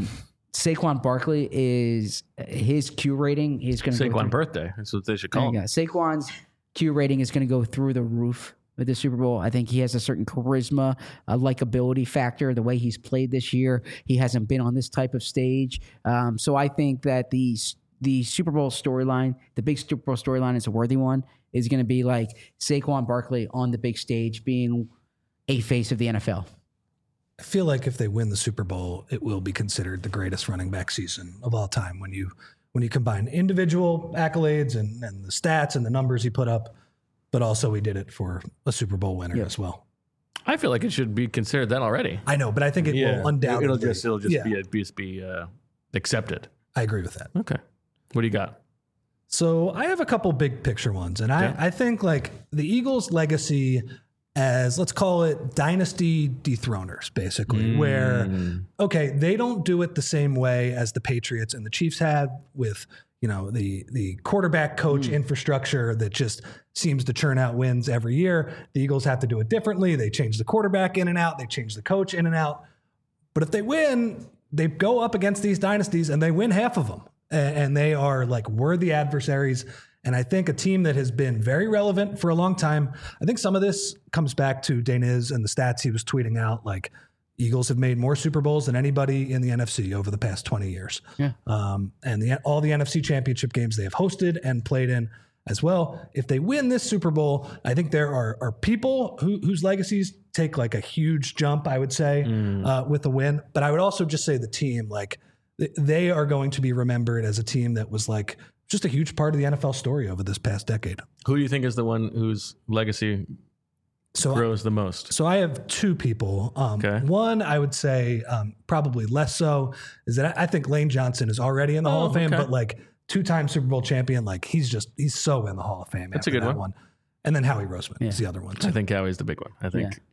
Saquon Barkley is his Q rating is going to Saquon birthday. That's what they should call him. Saquon's Q rating is going to go through the roof with the Super Bowl. I think he has a certain charisma, a likability factor. The way he's played this year, he hasn't been on this type of stage. So I think that the Super Bowl storyline, the big Super Bowl storyline, is a worthy one. Is going to be like Saquon Barkley on the big stage, being a face of the NFL. I feel like if they win the Super Bowl, it will be considered the greatest running back season of all time when you combine individual accolades and the stats and the numbers he put up, but also he did it for a Super Bowl winner as well. I feel like it should be considered that already. I know, but I think it will undoubtedly. It'll just be accepted. I agree with that. Okay. What do you got? So I have a couple big picture ones, and I think like the Eagles' legacy as, let's call it, dynasty dethroners, basically, where, okay, they don't do it the same way as the Patriots and the Chiefs had with, the quarterback coach infrastructure that just seems to churn out wins every year. The Eagles have to do it differently. They change the quarterback in and out. They change the coach in and out. But if they win, they go up against these dynasties and they win half of them. And they are like worthy adversaries. And I think a team that has been very relevant for a long time, I think some of this comes back to Deniz and the stats he was tweeting out. Like, Eagles have made more Super Bowls than anybody in the NFC over the past 20 years. Yeah. And all the NFC championship games they have hosted and played in as well. If they win this Super Bowl, I think there are people whose legacies take like a huge jump, I would say, with the win. But I would also just say the team, like, they are going to be remembered as a team that was like just a huge part of the NFL story over this past decade. Who do you think is the one whose legacy grows the most? So I have two people. One, I would say probably less so, is that I think Lane Johnson is already in the Hall of Fame, but like two-time Super Bowl champion, like he's so in the Hall of Fame. That's a good one. And then Howie Roseman is the other one too. I think Howie's the big one. I think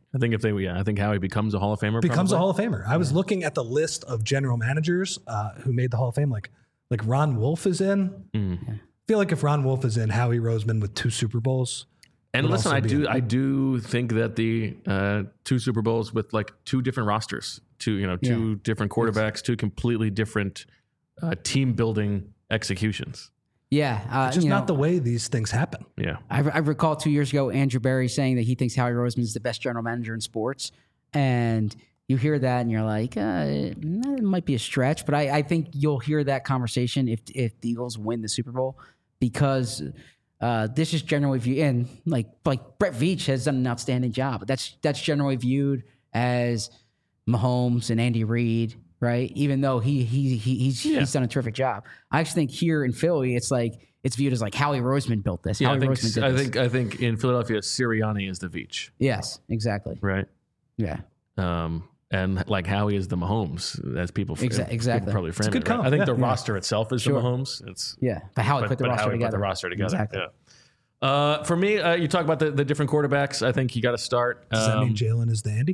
I think I think Howie becomes a Hall of Famer. Becomes probably. a Hall of Famer. I was looking at the list of general managers who made the Hall of Fame. Like Ron Wolf is in. I feel like if Ron Wolf is in, Howie Roseman with 2 Super Bowls. And would listen, also be I do think that the 2 Super Bowls with like 2 different rosters, 2 different quarterbacks, 2 completely different team building executions. Yeah. It's just not the way these things happen. Yeah. I recall 2 years ago, Andrew Berry saying that he thinks Howie Roseman is the best general manager in sports. And you hear that and you're like, it might be a stretch. But I think you'll hear that conversation if the Eagles win the Super Bowl, because this is generally viewed, and like Brett Veach has done an outstanding job. That's generally viewed as Mahomes and Andy Reid, right? Even though he's done a terrific job. I actually think here in Philly, it's viewed as like Howie Roseman built this. Yeah, Howie Roseman did this. I think in Philadelphia, Sirianni is the Veach, Yes, exactly. right? Yeah. And like Howie is the Mahomes, as people Exactly. people probably frame good it. Right? call. I think Yeah. the roster itself is the Mahomes. It's Yeah. But Howie put the roster Howie together. put the roster together. Exactly. Yeah. For me, you talk about the different quarterbacks. I think you got to start. Does that mean Jalen is the Andy?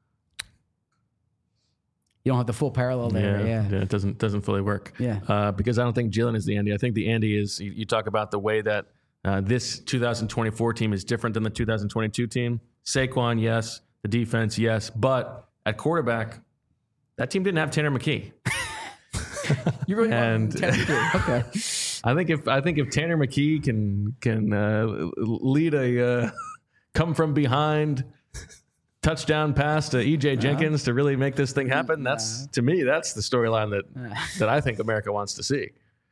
You don't have the full parallel there. Yeah. it doesn't fully work. Yeah. Because I don't think Jalen is the Andy. I think the Andy is. You talk about the way that this 2024 team is different than the 2022 team. Saquon, yes. The defense, yes. But at quarterback, that team didn't have Tanner McKee. You really And- want Tanner McKee. Okay. I think if Tanner McKee can lead a come from behind touchdown pass to EJ Jenkins to really make this thing happen, that's to me that's the storyline that I think America wants to see.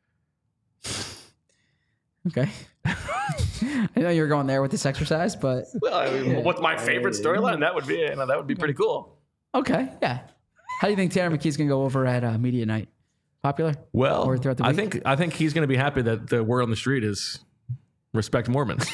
Okay. I know you were going there with this exercise, but Well, I mean, what's my favorite storyline? That would be pretty cool. okay. Yeah. How do you think Tanner McKee's going to go over at media night? Popular? Well, Or throughout the week? I think he's going to be happy that the word on the street is respect Mormons.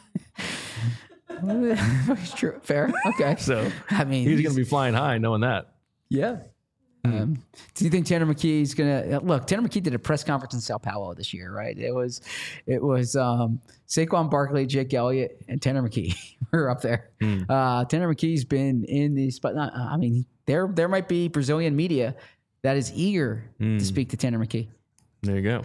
It's true. Fair. Okay. So I mean, he's going to be flying high knowing that. yeah. Do you think Tanner McKee's gonna look? Tanner McKee did a press conference in Sao Paulo this year, right? It was Saquon Barkley, Jake Elliott, and Tanner McKee were up there. Tanner McKee's been in the spot. I mean, there might be Brazilian media that is eager to speak to Tanner McKee. There you go.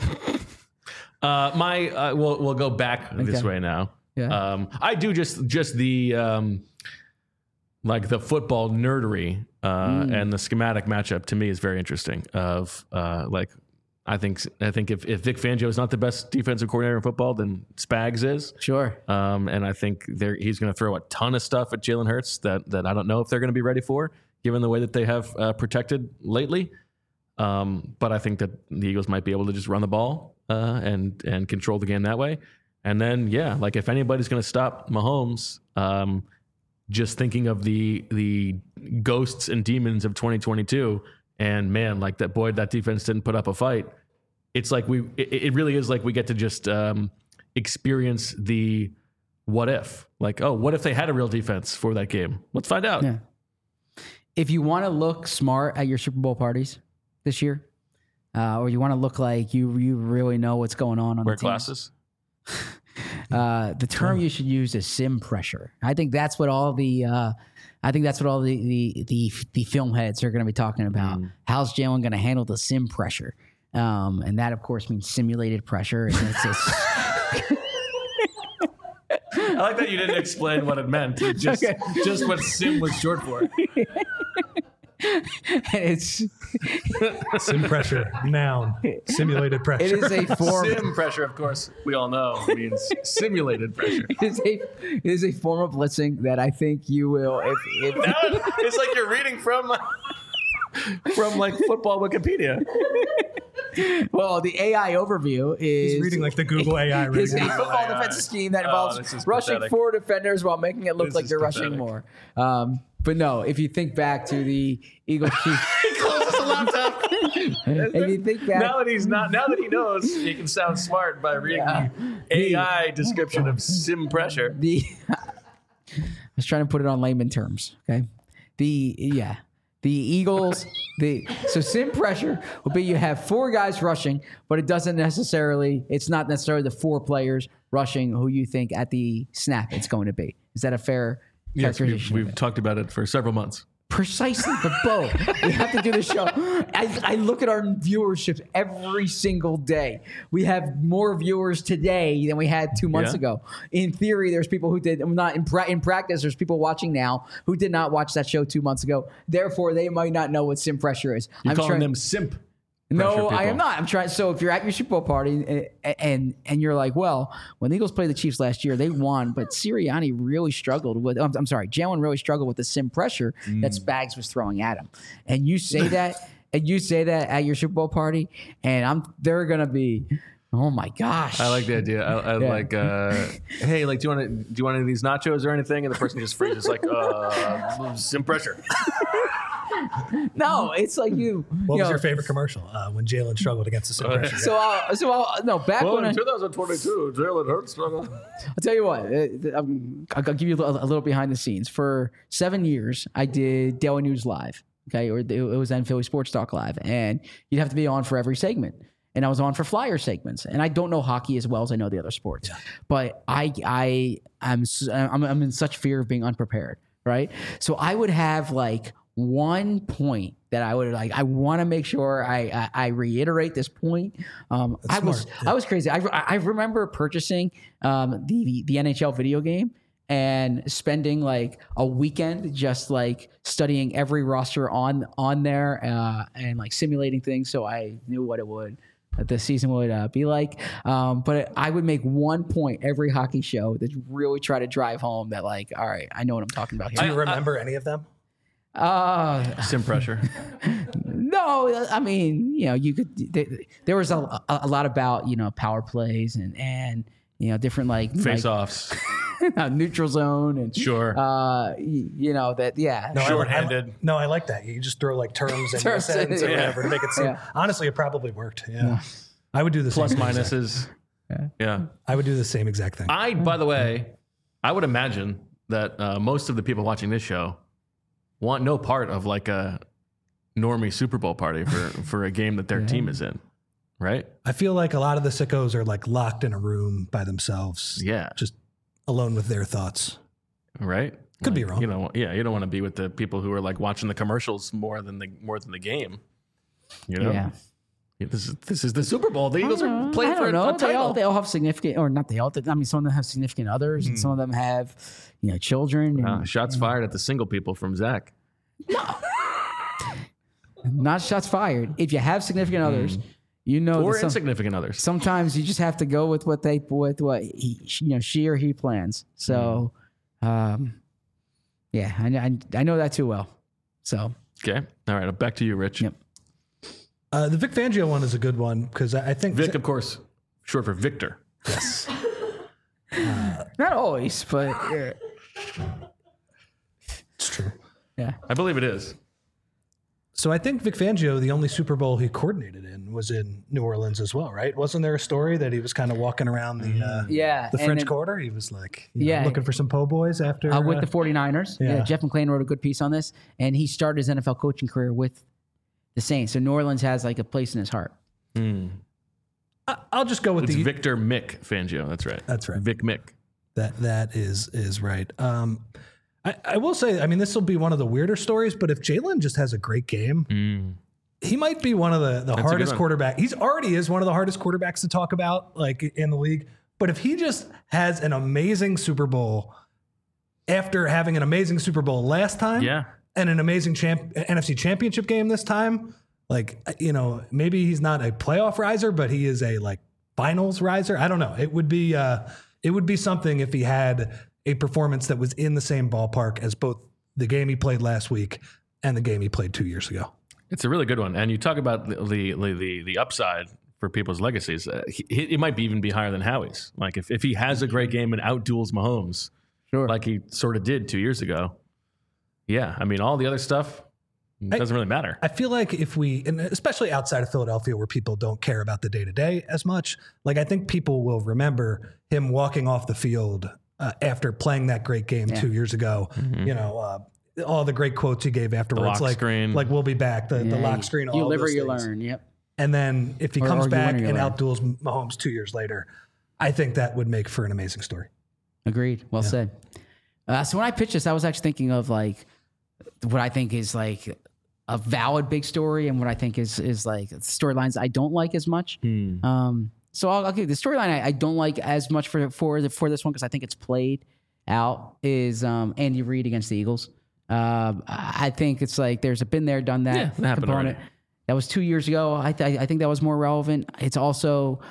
We'll go back this way now. Yeah. I do just the like the football nerdery and the schematic matchup to me is very interesting. Of I think if Vic Fangio is not the best defensive coordinator in football, then Spags is. Sure. And I think he's going to throw a ton of stuff at Jalen Hurts that I don't know if they're going to be ready for, given the way that they have protected lately. But I think that the Eagles might be able to just run the ball and control the game that way. And then, like if anybody's going to stop Mahomes, just thinking of the ghosts and demons of 2022, and man, like that defense didn't put up a fight. It's like it really is like we get to just experience the what if. Like, oh, what if they had a real defense for that game? Let's find out. Yeah. If you want to look smart at your Super Bowl parties this year, or you want to look like you really know what's going on Wear the teams, glasses. The term you should use is sim pressure. I think that's what all the film heads are going to be talking about. How's Jalen going to handle the sim pressure? And that, of course, means simulated pressure. And it's I like that you didn't explain what it meant. Just what sim was short for. it's Sim pressure, noun, simulated pressure. it is a form. Sim pressure, of course, we all know means simulated pressure. It is a form of blitzing that I think you will. If It's like you're reading from like football Wikipedia. well, the AI overview is He's reading like the Google AI right is a now. football AI. defensive scheme that Oh, involves this is rushing pathetic. 4 defenders while making it look This like is they're pathetic. rushing more. But no, if you think back to the Eagles Chiefs, He closes the laptop. if you think back, Now that he knows, he can sound smart by reading the AI description of sim pressure. I was trying to put it on layman terms. Okay, the Eagles. So sim pressure will be you have 4 guys rushing, but it's not necessarily the 4 players rushing who you think at the snap it's going to be. Is that a fair Yes, characterization. we've talked about it for several months. Precisely, but Bo, we have to do the show. I look at our viewership every single day. We have more viewers today than we had 2 months ago. In theory, there's people who did not in practice. There's people watching now who did not watch that show 2 months ago. Therefore, they might not know what sim pressure is. You're calling them simp. No, I am not. I'm trying. So if you're at your Super Bowl party and you're like, well, when the Eagles played the Chiefs last year, they won, but Sirianni really struggled with. I'm sorry, Jalen really struggled with the sim pressure that Spags was throwing at him. And you say that, at your Super Bowl party, and they're gonna be. Oh my gosh! I like the idea. I like. Hey, like, do you want any of these nachos or anything? And the person just freezes like, sim pressure. No, it's like you. What was your favorite commercial when Jalen struggled against the sim pressure? Back when in 2022, Jalen Hurts struggled. I'll tell you what, I'll give you a little behind the scenes. For 7 years, I did Daily News Live, okay, or it was then Philly Sports Talk Live, and you'd have to be on for every segment. And I was on for flyer segments, and I don't know hockey as well as I know the other sports, but I'm in such fear of being unprepared, right? So I would have like one point that I would like. I want to make sure I reiterate this point. I was crazy. I remember purchasing the NHL video game and spending like a weekend just like studying every roster on there and like simulating things, so I knew what the season would be like. But I would make 1 point every hockey show that really try to drive home that like, all right, I know what I'm talking about here. Do you remember any of them? Sim pressure. No, I mean, you could. There was a lot about power plays and different like face-offs, neutral zone and sure. That No, shorthanded. I like that. You just throw like terms and sentence or whatever to make it seem. Honestly, it probably worked. Yeah. I would do the plus same minuses. Yeah. I would do the same exact thing. By the way, I would imagine that most of the people watching this show want no part of like a normie Super Bowl party for a game that their team is in, right? I feel like a lot of the sickos are like locked in a room by themselves. Yeah. Just alone with their thoughts. Right? Could be wrong. You don't want to be with the people who are like watching the commercials more than the game. Yeah. This is the Super Bowl. The Eagles are playing for a title. They all have significant, or not they all. I mean, some of them have significant others, and some of them have, children. And, shots fired at the single people from Zach. No, not shots fired. If you have significant others, or insignificant others. Sometimes you just have to go with what she or he plans. So, I know that too well. So okay, all right. Back to you, Rich. Yep. The Vic Fangio one is a good one because I think Vic, of course, short for Victor. Yes. Not always, but It's true. Yeah, I believe it is. So I think Vic Fangio, the only Super Bowl he coordinated in was in New Orleans as well, right? Wasn't there a story that he was kind of walking around the French Quarter? He was like, looking for some po' boys after with the 49ers. Yeah, Jeff McClain wrote a good piece on this, and he started his NFL coaching career with the Saints. So New Orleans has like a place in his heart. I'll just go with it's Victor Mick Fangio. That's right. That's right. Vic Mick. That is right. I will say, I mean, this will be one of the weirder stories, but if Jalen just has a great game, he might be one of the hardest quarterbacks. He's already is one of the hardest quarterbacks to talk about, like in the league. But if he just has an amazing Super Bowl after having an amazing Super Bowl last time, and an amazing NFC Championship game this time, like, maybe he's not a playoff riser, but he is a like finals riser. I don't know. It would be something if he had a performance that was in the same ballpark as both the game he played last week and the game he played 2 years ago. It's a really good one. And you talk about the upside for people's legacies. It might even be higher than Howie's. Like if he has a great game and outduels Mahomes, like he sort of did 2 years ago. Yeah. I mean, all the other stuff doesn't really matter. I feel like and especially outside of Philadelphia where people don't care about the day-to-day as much, like I think people will remember him walking off the field after playing that great game 2 years ago. All the great quotes he gave afterwards, the lock screen. Like we'll be back, the lock screen, all you live those or you things. learn. Yep. And then if he comes back and outduels Mahomes 2 years later, I think that would make for an amazing story. Agreed. Well said. So when I pitched this, I was actually thinking of like what I think is like a valid big story, and what I think is like storylines I don't like as much. So I'll give you the storyline I don't like as much for this one because I think it's played out is Andy Reid against the Eagles. I think it's like there's a been there, done that component. Already. That was 2 years ago. I think that was more relevant. It's also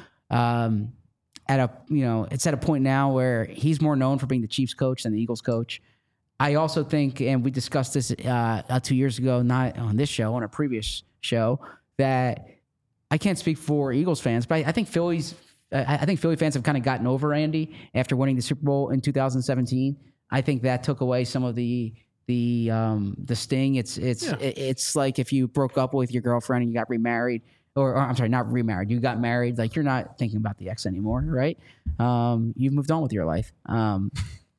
it's at a point now where he's more known for being the Chiefs coach than the Eagles coach. I also think, and we discussed this 2 years ago, not on this show, on a previous show, that I can't speak for Eagles fans, but I think Philly fans have kind of gotten over Andy after winning the Super Bowl in 2017. I think that took away some of the sting. It's like if you broke up with your girlfriend and you got remarried, or I'm sorry, not remarried. You got married. Like you're not thinking about the ex anymore, right? You've moved on with your life. No.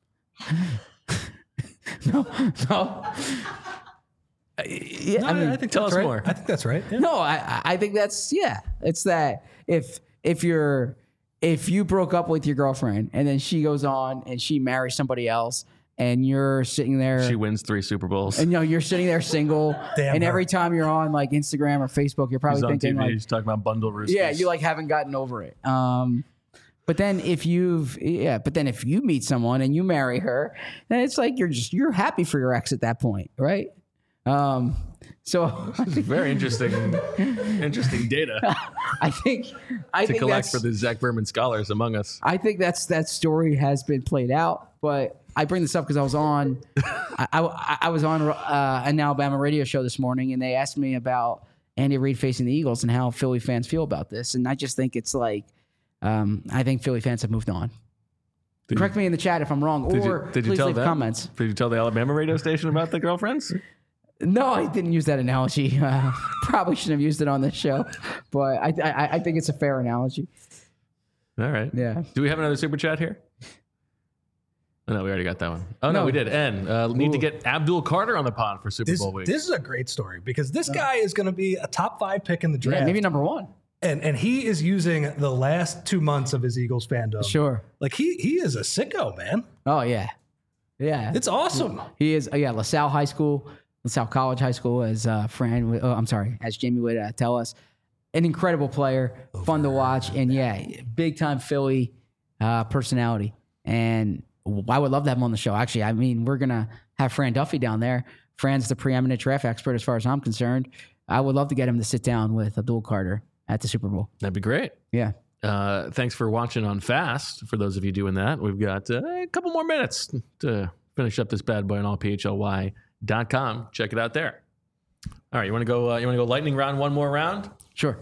Yeah, I think tell us right. More. I think that's right. Yeah. No, I think that's It's that if you broke up with your girlfriend and then she goes on and she marries somebody else and you're sitting there, she wins 3 Super Bowls, and you're sitting there single, and every time you're on like Instagram or Facebook, you're probably thinking TV, like he's talking about bundle roosters. Yeah, you like haven't gotten over it. But then if you meet someone and you marry her, then it's like you're happy for your ex at that point, right? So this is very interesting data. I think to collect for the Zach Berman scholars among us. I think that story has been played out, but I bring this up because I was on an Alabama radio show this morning, and they asked me about Andy Reid facing the Eagles and how Philly fans feel about this, and I just think it's like I think Philly fans have moved on. Correct me in the chat if I'm wrong, please leave comments. Did you tell the Alabama radio station about the girlfriends? No, I didn't use that analogy. Probably shouldn't have used it on this show, but I think it's a fair analogy. All right. Yeah. Do we have another super chat here? Oh, no, we already got that one. Oh, no we did. And need to get Abdul Carter on the pod for Super Bowl week. This is a great story because this guy is going to be a top 5 pick in the draft. Yeah, maybe number 1. And he is using the last 2 months of his Eagles fandom. Sure. Like he is a sicko, man. Oh, yeah. Yeah. It's awesome. He is, LaSalle College High School, as as Jamie would tell us. An incredible player, fun to watch, and big time Philly personality. And I would love to have him on the show. Actually, I mean, we're gonna have Fran Duffy down there. Fran's the preeminent draft expert, as far as I'm concerned. I would love to get him to sit down with Abdul Carter at the Super Bowl. That'd be great. Yeah. Thanks for watching on Fast. For those of you doing that, we've got a couple more minutes to finish up this bad boy on allphly.com. Check it out there. All right, you want to go lightning round one more round? Sure.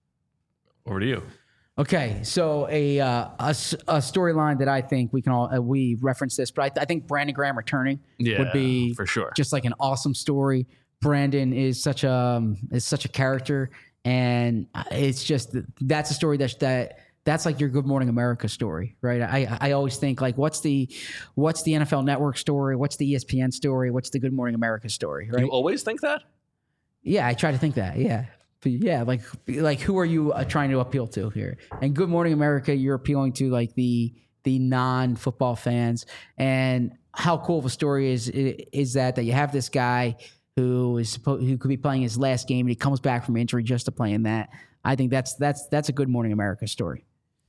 Over to you. Okay, so a storyline that I think we can we reference this, but I think Brandon Graham returning would be for sure just like an awesome story. Brandon is such a character, and it's just that's a story that's like your Good Morning America story, right? I always think like what's the NFL Network story, what's the ESPN story, what's the Good Morning America story, right? You always think that? Yeah, I try to think that. Yeah. Yeah, like who are you trying to appeal to here? And Good Morning America, you're appealing to like the non-football fans. And how cool of a story is that you have this guy who could be playing his last game and he comes back from injury just to play in that. I think that's a Good Morning America story.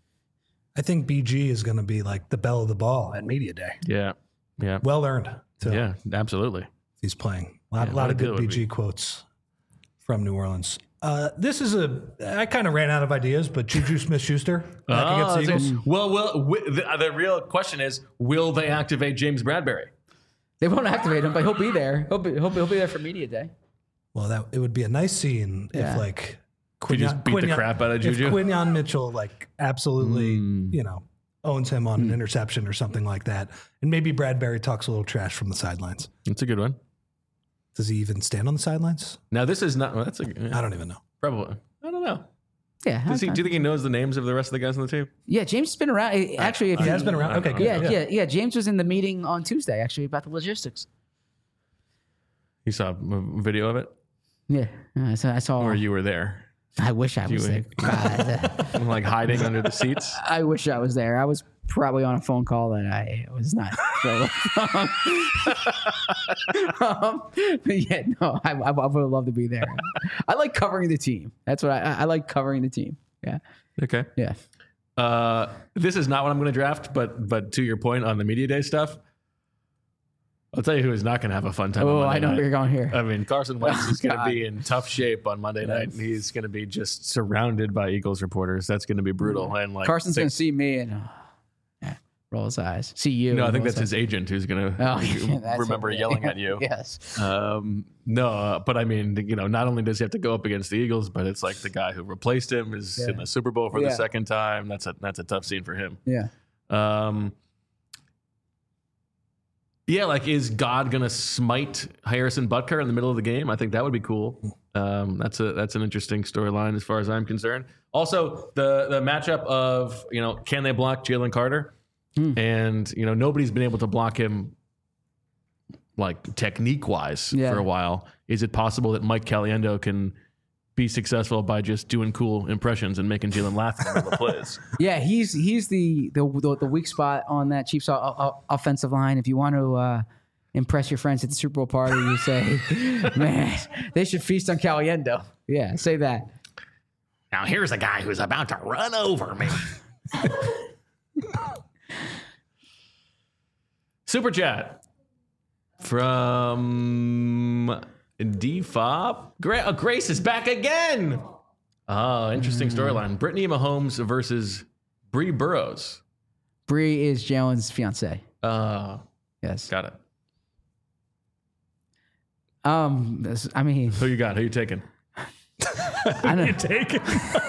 I think BG is going to be like the belle of the ball at Media Day. Yeah, yeah, well earned. Too. Yeah, absolutely. He's playing a lot of good BG quotes from New Orleans. This is I kind of ran out of ideas, but Juju Smith-Schuster back against the Eagles. Well, the real question is, will they activate James Bradberry? They won't activate him, but he'll be there. He'll be there for Media Day. Well, it would be a nice scene if like Quinyon, just beat the crap out of Juju. If Quinyon Mitchell like absolutely owns him on an interception or something like that, and maybe Bradberry talks a little trash from the sidelines. That's a good one. Does he even stand on the sidelines? Now this is not. Well, I don't even know. Probably. I don't know. Yeah. Do you think he knows the names of the rest of the guys on the team? Yeah, James has been around. Actually, he has been around. Okay, good. Yeah. James was in the meeting on Tuesday actually about the logistics. You saw a video of it? Yeah, I saw. Or you were there? I wish I was there. God. Like hiding under the seats. I wish I was there. I was probably on a phone call that I was not. But yeah, no, I would love to be there. I like covering the team. That's what I like covering the team. Yeah. Okay. Yeah. This is not what I'm going to draft, but to your point on the media day stuff, I'll tell you who is not going to have a fun time. Oh, on Monday I know night. where you're going here. I mean, Carson Wentz is going to God. be in tough shape on Monday night. He's going to be just surrounded by Eagles reporters. That's going to be brutal. And like Carson's going to see me and roll his eyes. See you. No, I think roll that's his agent who's going to that's remember it. yelling at you. Yes. No, but I mean, not only does he have to go up against the Eagles, but it's like the guy who replaced him is in the Super Bowl for the second time. That's a tough scene for him. Yeah. Yeah, like is God gonna smite Harrison Butker in the middle of the game? I think that would be cool. That's an interesting storyline as far as I'm concerned. Also, the matchup of can they block Jalen Carter? And nobody's been able to block him like technique wise for a while. Is it possible that Mike Caliendo can be successful by just doing cool impressions and making Jalen laugh in the middle of plays? Yeah, he's the weak spot on that Chiefs offensive line. If you want to impress your friends at the Super Bowl party, you say, "Man, they should feast on Caliendo." Yeah, say that. Now here's a guy who's about to run over me. Super chat from D-Fob. Grace is back again. Oh, interesting storyline. Brittany Mahomes versus Bree Burrows. Bree is Jalen's fiance. Yes. Got it. I mean, Who you got? Who you taking? I know. You taking?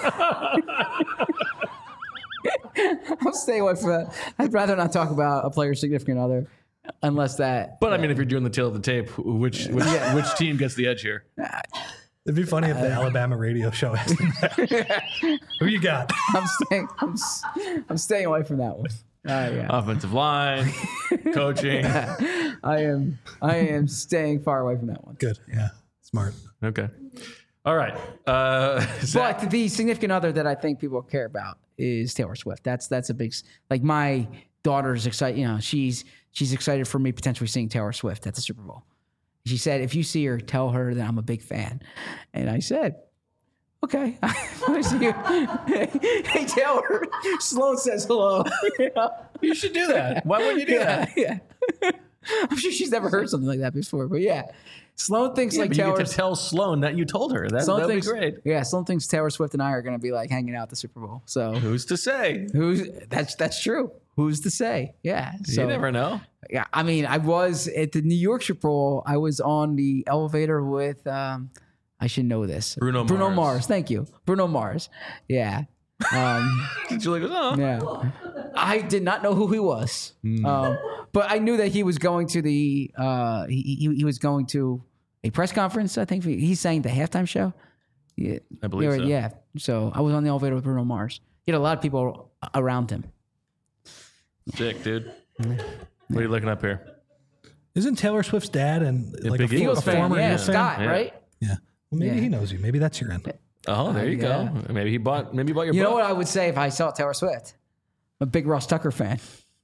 I'll stay away from that. I'd rather not talk about a player's significant other unless that. But I mean, if you're doing the tail of the tape, which team gets the edge here? It'd be funny if the Alabama radio show asked him that. Who you got? I'm staying away from that one. Yeah. Offensive line, coaching. I am staying far away from that one. Good. Yeah. Smart. Okay. All right. Zach. But the significant other that I think people care about is Taylor Swift. That's a big, like my daughter's excited. She's excited for me potentially seeing Taylor Swift at the Super Bowl. She said, if you see her, tell her that I'm a big fan. And I said, okay. I see you. Hey, Taylor. Sloan says hello. You should do that. Why wouldn't you do that? Yeah. I'm sure she's never heard something like that before, but yeah. Sloan thinks like but Taylor. You get to tell Sloan that you told her. That'd be great. Yeah, Sloan thinks Taylor Swift and I are going to be like hanging out at the Super Bowl. So who's to say? That's true. Who's to say? Yeah. So, you never know. Yeah, I mean, I was at the New York Super Bowl. I was on the elevator with I should know this. Bruno Mars. Thank you, Bruno Mars. Yeah. Julie goes, oh. Yeah. I did not know who he was, but I knew that he was going to the he was going to a press conference. I think he sang the halftime show. Yeah, I believe so. Yeah. So I was on the elevator with Bruno Mars. He had a lot of people around him. Sick, dude. What are you looking up here? Isn't Taylor Swift's dad and like big a Eagles fan. former Yeah, Eagles fan? Scott, right? Yeah. Well, maybe he knows you. Maybe that's your end. Oh, there you go. Maybe you bought your book. You know what I would say if I saw Taylor Swift? I'm a big Ross Tucker fan.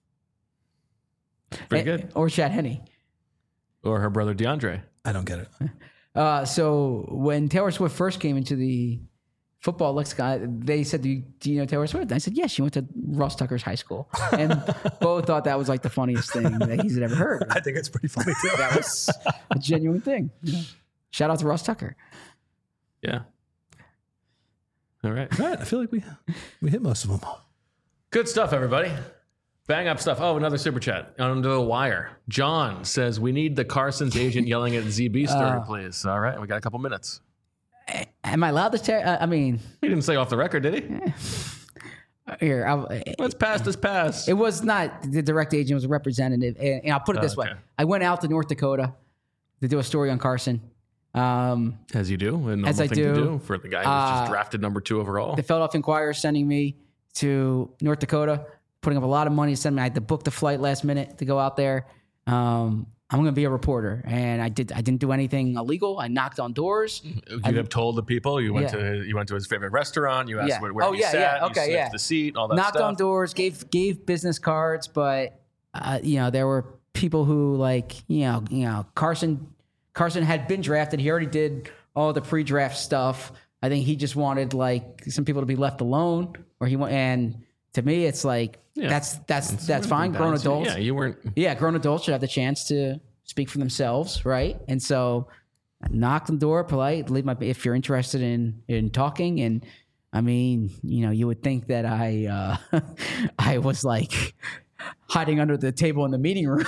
Very good. Or Chad Henne. Or her brother DeAndre. I don't get it. So when Taylor Swift first came into the football lexicon, they said, do you know Taylor Swift? And I said, yes, she went to Ross Tucker's high school. And both thought that was like the funniest thing that he's ever heard. I think it's pretty funny too. That was a genuine thing. Yeah. Shout out to Ross Tucker. Yeah. All right. All right. I feel like we hit most of them. Good stuff, everybody. Bang up stuff. Oh, another super chat under the wire. John says, we need the Carson's agent yelling at ZB story, please. All right. We got a couple minutes. Am I allowed to I mean... He didn't say off the record, did he? Here, let's pass this pass. It was not the direct agent. It was a representative. And I'll put it this way. I went out to North Dakota to do a story on Carson. As you do. A normal thing to do for the guy who was just drafted number 2 overall. The Philadelphia Inquirer is sending me to North Dakota, putting up a lot of money to send me. I had to book the flight last minute to go out there. I'm going to be a reporter, and I didn't do anything illegal. I knocked on doors. You have told the people you went to his favorite restaurant. You asked where he sat. Okay, you sniffed the seat. All that knocked stuff. on doors. Gave business cards, but there were people who Carson had been drafted. He already did all the pre-draft stuff. I think he just wanted some people to be left alone, and to me, it's that's fine. Grown adults. Yeah, you weren't. Yeah, grown adults should have the chance to speak for themselves, right? And so, I knocked on the door, polite, if you're interested in talking. And I mean, you would think that I was hiding under the table in the meeting room,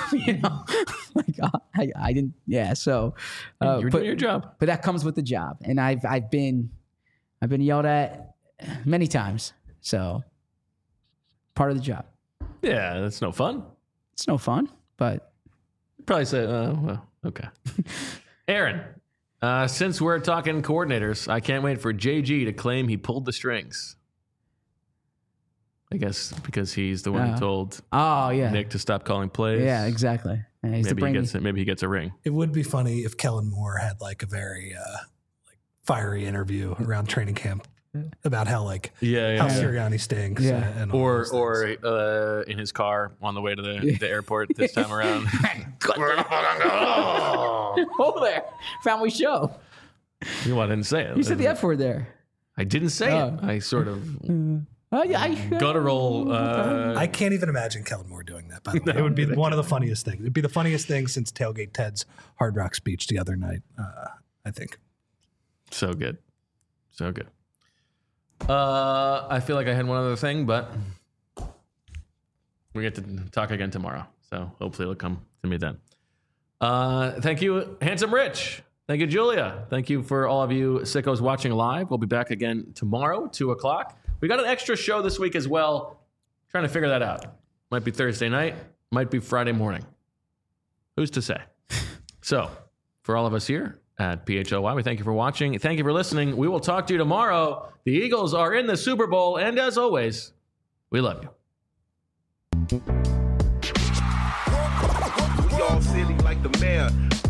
I didn't. Yeah, so you're doing your job, but that comes with the job, and I've been yelled at many times, so. Part of the job. Yeah, that's no fun. It's no fun, but probably say, well, okay. Aaron, since we're talking coordinators, I can't wait for JG to claim he pulled the strings. I guess because he's the one who told Nick to stop calling plays. Yeah, exactly. Maybe he gets a ring. It would be funny if Kellen Moore had a very fiery interview around training camp about how how Sirianni stinks, and or in his car on the way to the airport this time around. Oh, there, family show. I didn't say it. You said the F word there. I didn't say it. I sort of guttural. I can't even imagine Kellen Moore doing that. By the way, it would be one of the funniest things. It'd be the funniest thing since Tailgate Ted's Hard Rock speech the other night. I think. So good. I feel like I had one other thing, but we get to talk again tomorrow. So hopefully it'll come to me then. Thank you, Handsome Rich. Thank you, Julia. Thank you for all of you sickos watching live. We'll be back again tomorrow, 2:00. We got an extra show this week as well. Trying to figure that out. Might be Thursday night. Might be Friday morning. Who's to say? So for all of us here at PHLY, we thank you for watching. Thank you for listening. We will talk to you tomorrow. The Eagles are in the Super Bowl, and as always, we love you. We all silly like the mayor.